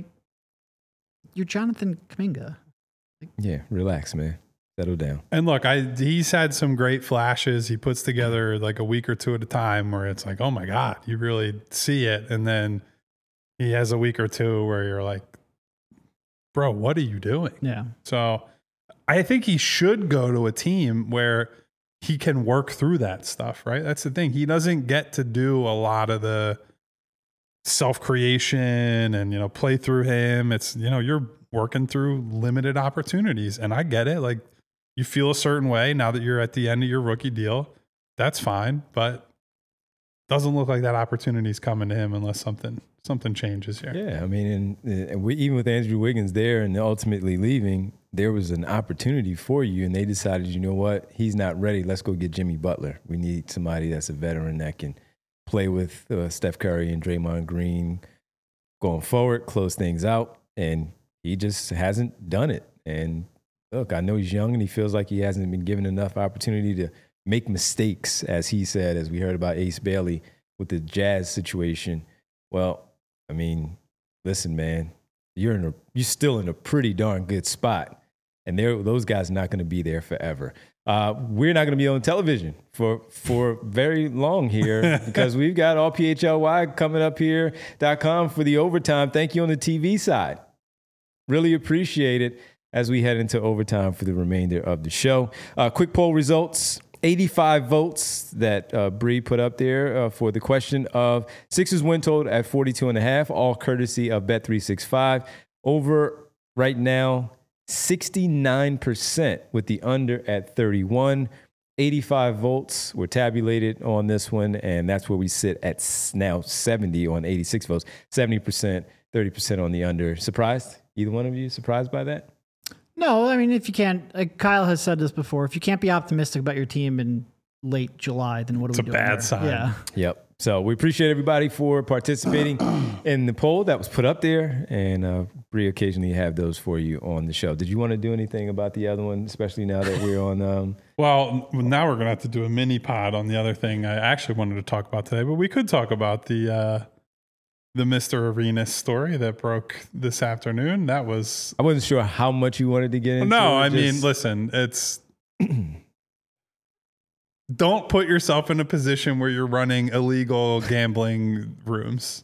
you're Jonathan Kuminga. Yeah, relax, man. Settle down. And look, I he's had some great flashes. He puts together like a week or two at a time where it's like, oh my God, you really see it. And then he has a week or two where you're like, bro, what are you doing? Yeah. So I think he should go to a team where he can work through that stuff, right? That's the thing. He doesn't get to do a lot of the self-creation and, you know, play through him. It's, you know, you're working through limited opportunities. And I get it. Like, you feel a certain way now that you're at the end of your rookie deal. That's fine. But doesn't look like that opportunity is coming to him unless something something changes here. Yeah, I mean, and, and we, even with Andrew Wiggins there and ultimately leaving, there was an opportunity for you, and they decided, you know what, he's not ready. Let's go get Jimmy Butler. We need somebody that's a veteran that can play with uh, Steph Curry and Draymond Green going forward, close things out, and he just hasn't done it. And look, I know he's young and he feels like he hasn't been given enough opportunity to make mistakes, as he said, as we heard about Ace Bailey with the Jazz situation. Well, I mean, listen, man, you're in a, you're still in a pretty darn good spot, and they're, those guys are not going to be there forever. Uh, we're not going to be on television for for very long here because we've got all P H L Y coming up here dot com for the overtime. Thank you on the T V side. Really appreciate it as we head into overtime for the remainder of the show. Uh, quick poll results. eighty-five votes that uh, Bree put up there uh, for the question of Sixers win total at forty-two and a half, all courtesy of Bet three sixty-five. Over right now, sixty-nine percent with the under at thirty-one. eighty-five votes were tabulated on this one, and that's where we sit at s- now seventy on eighty-six votes. seventy percent, thirty percent on the under. Surprised? Either one of you surprised by that? No, I mean, if you can't, like Kyle has said this before, if you can't be optimistic about your team in late July, then what are It's we a doing bad there? sign. Yeah. Yep. So we appreciate everybody for participating in the poll that was put up there, and uh, we occasionally have those for you on the show. Did you want to do anything about the other one, especially now that we're on? Um, Well, now we're going to have to do a mini pod on the other thing I actually wanted to talk about today, but we could talk about the uh, the Mister Arenas story that broke this afternoon. That was I wasn't sure how much you wanted to get into. no. it, I mean, just- listen, it's. Don't put yourself in a position where you're running illegal gambling rooms.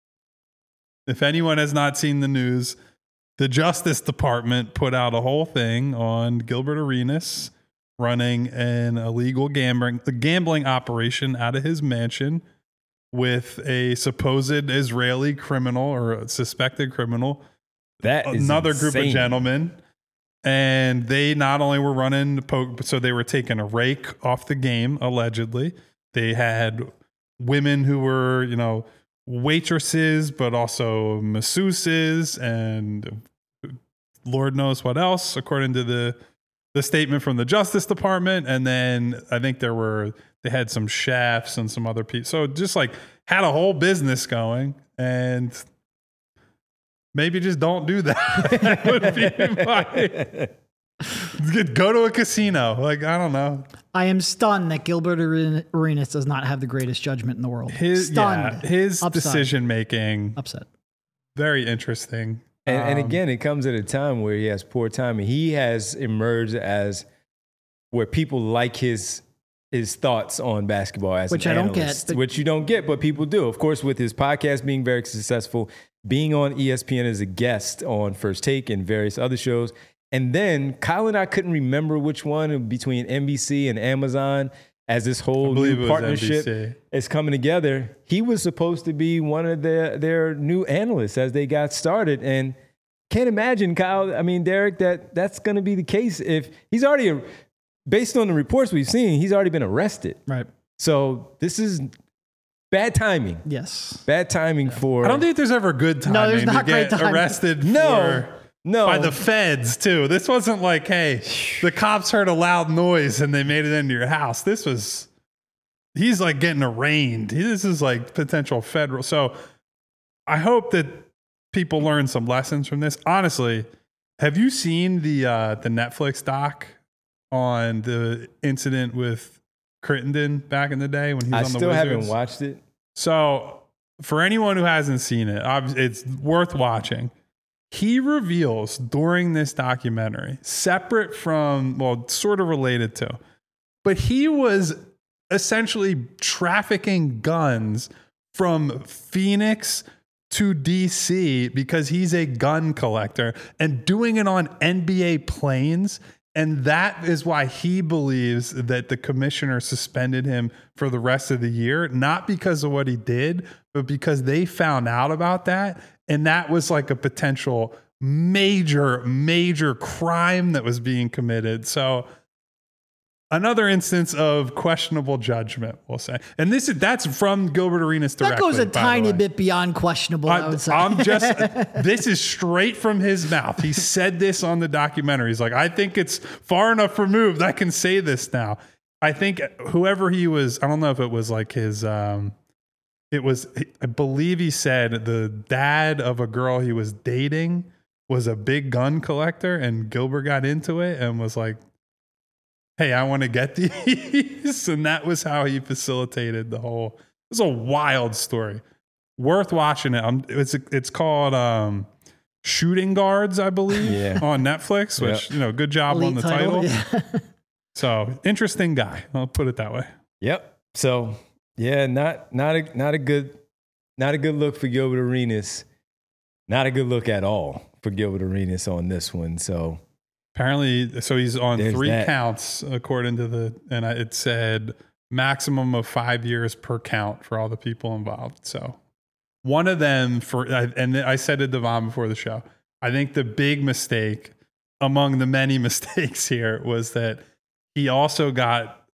If anyone has not seen the news, the Justice Department put out a whole thing on Gilbert Arenas running an illegal gambling gambling operation out of his mansion with a supposed Israeli criminal or a suspected criminal, that is another group of insane. gentlemen. And they not only were running, po- so they were taking a rake off the game, allegedly. They had women who were, you know, waitresses, but also masseuses and Lord knows what else, according to the the statement from the Justice Department. And then I think there were, they had some chefs and some other people. So just like had a whole business going, and maybe just don't do that. That would be my, go to a casino. Like, I don't know. I am stunned that Gilbert Are- Arenas does not have the greatest judgment in the world. His, stunned. yeah, his Upside. decision making, Upset. very interesting. And, and Um, again, it comes at a time where he has poor timing. He has emerged as where people like his his thoughts on basketball as Which an I don't get, analyst, but- which you don't get, but people do. Of course, with his podcast being very successful, being on E S P N as a guest on First Take and various other shows. And then Kyle and I couldn't remember which one between N B C and Amazon as this I whole believe it new was partnership N B C. is coming together. He was supposed to be one of their, their new analysts as they got started. And can't imagine, Kyle, I mean, Derek, that that's going to be the case if he's already, based on the reports we've seen, he's already been arrested. Right. So this is bad timing. Yes. Bad timing for. I don't think there's ever good timing No, there's to not great get timing. arrested No. for, No. by the feds, too. This wasn't like, hey, the cops heard a loud noise and they made it into your house. This was, he's like getting arraigned. This is like potential federal. So I hope that people learn some lessons from this. Honestly, have you seen the uh, the Netflix doc on the incident with Crittenden back in the day when he was I on the still Wizards? haven't watched it. So, for anyone who hasn't seen it, obvi- it's worth watching. He reveals during this documentary, separate from, well, sort of related to, but he was essentially trafficking guns from Phoenix to D C because he's a gun collector and doing it on N B A planes. And that is why he believes that the commissioner suspended him for the rest of the year, not because of what he did, but because they found out about that. And that was like a potential major, major crime that was being committed. So another instance of questionable judgment, we'll say. And this is that's from Gilbert Arenas directly. That goes a by the tiny way. bit beyond questionable, I, I, would say. I'm just, this is straight from his mouth. He said this on the documentary. He's like, I think it's far enough removed. I can say this now. I think whoever he was, I don't know if it was like his, um, it was, I believe he said the dad of a girl he was dating was a big gun collector, and Gilbert got into it and was like, hey, I want to get these. And that was how he facilitated the whole, it was a wild story. Worth watching it. Um, it's it's called um, Shooting Guards, I believe, Yeah. on Netflix, which, Yep. you know, good job Elite on the title. Yeah. So, interesting guy. I'll put it that way. Yep. So yeah, not not a not a good not a good look for Gilbert Arenas. Not a good look at all for Gilbert Arenas on this one. So Apparently, so he's on There's three that. counts, according to the, and I- it said maximum of five years per count for all the people involved. So one of them for, I- and I said to Devon before the show, I think the big mistake among the many mistakes here was that he also got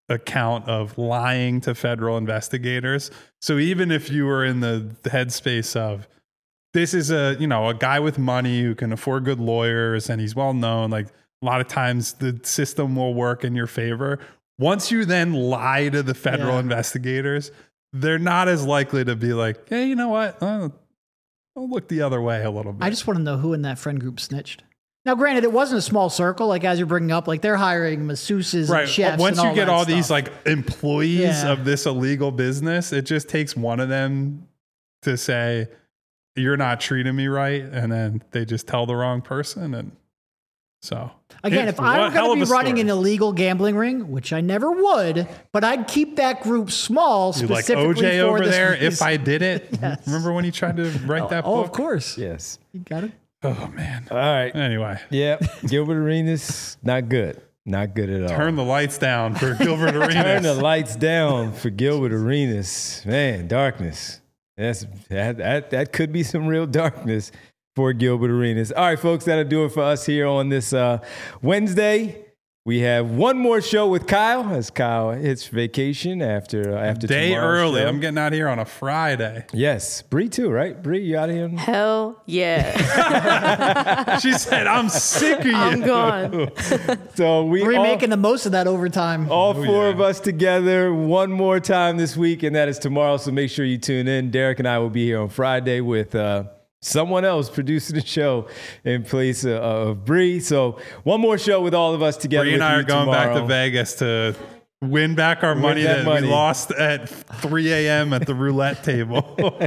account of lying to federal investigators. So even if you were in the, the headspace of this is a, you know, a guy with money who can afford good lawyers and he's well known, like a lot of times the system will work in your favor. Once you then lie to the federal Yeah. investigators, they're not as likely to be like, hey, you know what? I'll, I'll look the other way a little bit. I just want to know who in that friend group snitched. Now, granted, it wasn't a small circle. Like as you're bringing up, like they're hiring masseuses right. and chefs. Once and you all get that all stuff. these like employees Yeah. of this illegal business, it just takes one of them to say, you're not treating me right. And then they just tell the wrong person. And so Again, it- if I were what hell going to of be a running story. an illegal gambling ring, which I never would, but I'd keep that group small You like specifically O J for over this there, reason. if I did it. Yes. Remember when he tried to write that Oh, book? of course. Yes. You got it. Oh, man. All right. Anyway, Yeah. Gilbert Arenas, not good. Not good at all. turn the lights down for Gilbert Arenas. Turn the lights down for Gilbert Arenas. Man, darkness. That's that, that that could be some real darkness for Gilbert Arenas. All right, folks, that'll do it for us here on this uh, Wednesday. We have one more show with Kyle as Kyle hits vacation after uh, after Day tomorrow's early. show. I'm getting out here on a Friday. Yes, Bree too, right? Bree, you out of here? Hell yeah. She said, I'm sick of you. I'm gone. So we We're all, making the most of that overtime. all Oh, four yeah. of us together one more time this week, and that is tomorrow. So make sure you tune in. Derek and I will be here on Friday with uh, someone else producing the show in place of, of Bree. So one more show with all of us together. Bree and with I you are going back to tomorrow. Vegas to win back our Win money that that, money. we lost at three a.m. at the roulette table.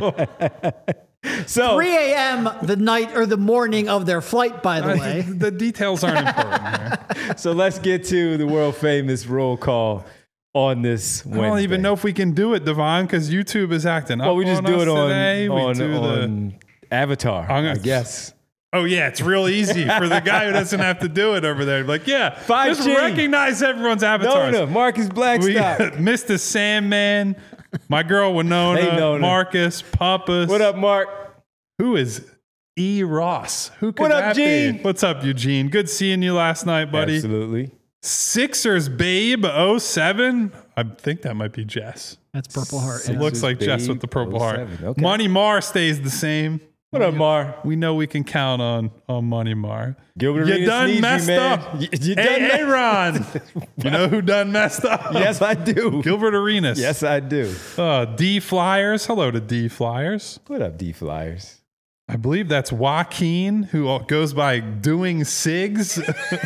So three a.m. the night or the morning of their flight, by the way. the details aren't important here. so let's get to the world famous roll call on this Wednesday. I don't even know if we can do it, Devon, because YouTube is acting up. Well, we just on do us it on, today. We on, do the- on Avatar, I'm I gonna- guess. Oh, yeah, it's real easy for the guy who doesn't have to do it over there. Like, yeah, five just G. recognize everyone's No, avatars. no, Marcus We Blackstock. Mister Sandman, my girl Winona, Hey, Nona. Marcus, Papas. What up, Mark? Who is E. Ross? Who could What up, that Gene? be? What's up, Eugene? Good seeing you last night, buddy. Absolutely. Sixers Babe oh seven. I think that might be Jess. That's Purple Heart. It yeah. looks like Babe Jess with the purple heart. oh seven. Okay. Money Mar stays the same. What up, Mar? We know we can count on on Money Mar. Gilbert You Arenas done needs messed you, man. up. You, you done Hey, messed- Aaron. You know who done messed up? Yes, I do. Gilbert Arenas. Yes, I do. Uh, D Flyers. Hello to D Flyers. What up, D Flyers? I believe that's Joaquin, who goes by Doing Cigs.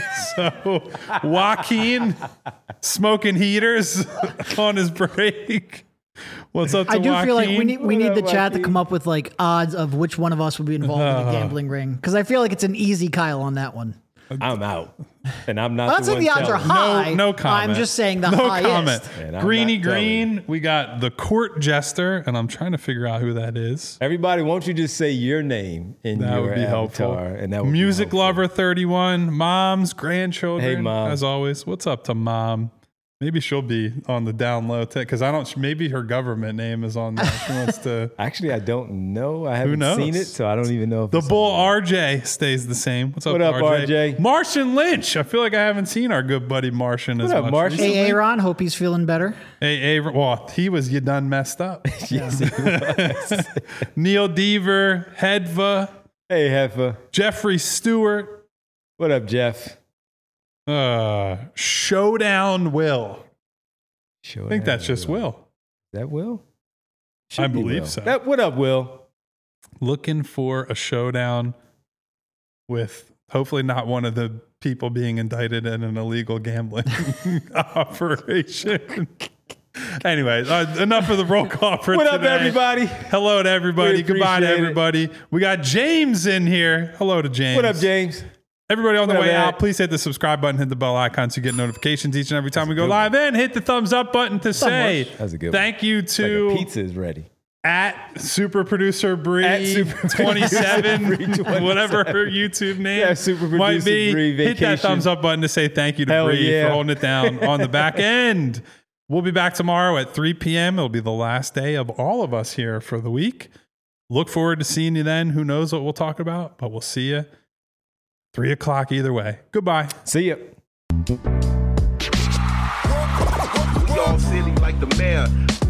So Joaquin smoking heaters on his break. What's up to I do Joaquin? feel like we need we What need up, the chat to Joaquin? come up with like odds of which one of us would be involved in Uh. a gambling ring because I feel like it's an easy Kyle on that one. I'm out. And I'm not I'm not the saying one the odds are telling. high. No, no comment. I'm just saying the no highest. comment. Man, I'm Greeny not telling Green. We got the court jester, and I'm trying to figure out who that is. Everybody, won't you just say your name in That your would be helpful. avatar? And that would be Music helpful. lover thirty-one, moms, grandchildren. Hey, Mom. As always, what's up to mom? Maybe she'll be on the down low because I don't. Maybe her government name is on there. She wants to. Actually, I don't know. I haven't knows? seen it, so I don't even know if The it's bull on R J stays the same. What's up, What up, R J? Martian Lynch. I feel like I haven't seen our good buddy Martian as What up, much. Martian? recently. Hey, Aaron, hope he's feeling better. Hey, hey, well, he was you done messed up. there. Yes, he was. Neil Deaver, Hedva, Hey, Heffa. Jeffrey Stewart, What up, Jeff? uh, Showdown Will. I think that's just Will. Is that Will? I Should be believe Will. so. That, what up, Will? Looking for a showdown with hopefully not one of the people being indicted in an illegal gambling operation. Anyway, uh, enough of the roll call for What up, today. everybody? Hello to everybody. We Goodbye to appreciate it. everybody. We got James in here. Hello to James. What up, James? Everybody on the What up, way Ed? out, please hit the subscribe button, hit the bell icon so you get notifications each and every time we go good live. And hit the thumbs up button to say That's a good one. thank you Like to a pizza is ready. at super producer At Bree Super twenty-seven, Producer Bree whatever her twenty-seven. YouTube name Yeah, Super might Producer be. Bree Hit that Vacation. thumbs up button to say thank you to Hell Bree yeah. for holding it down on the back end. We'll be back tomorrow at three p.m. It'll be the last day of all of us here for the week. Look forward to seeing you then. Who knows what we'll talk about, but we'll see you three o'clock either way. Goodbye. See ya. all silly like the mayor.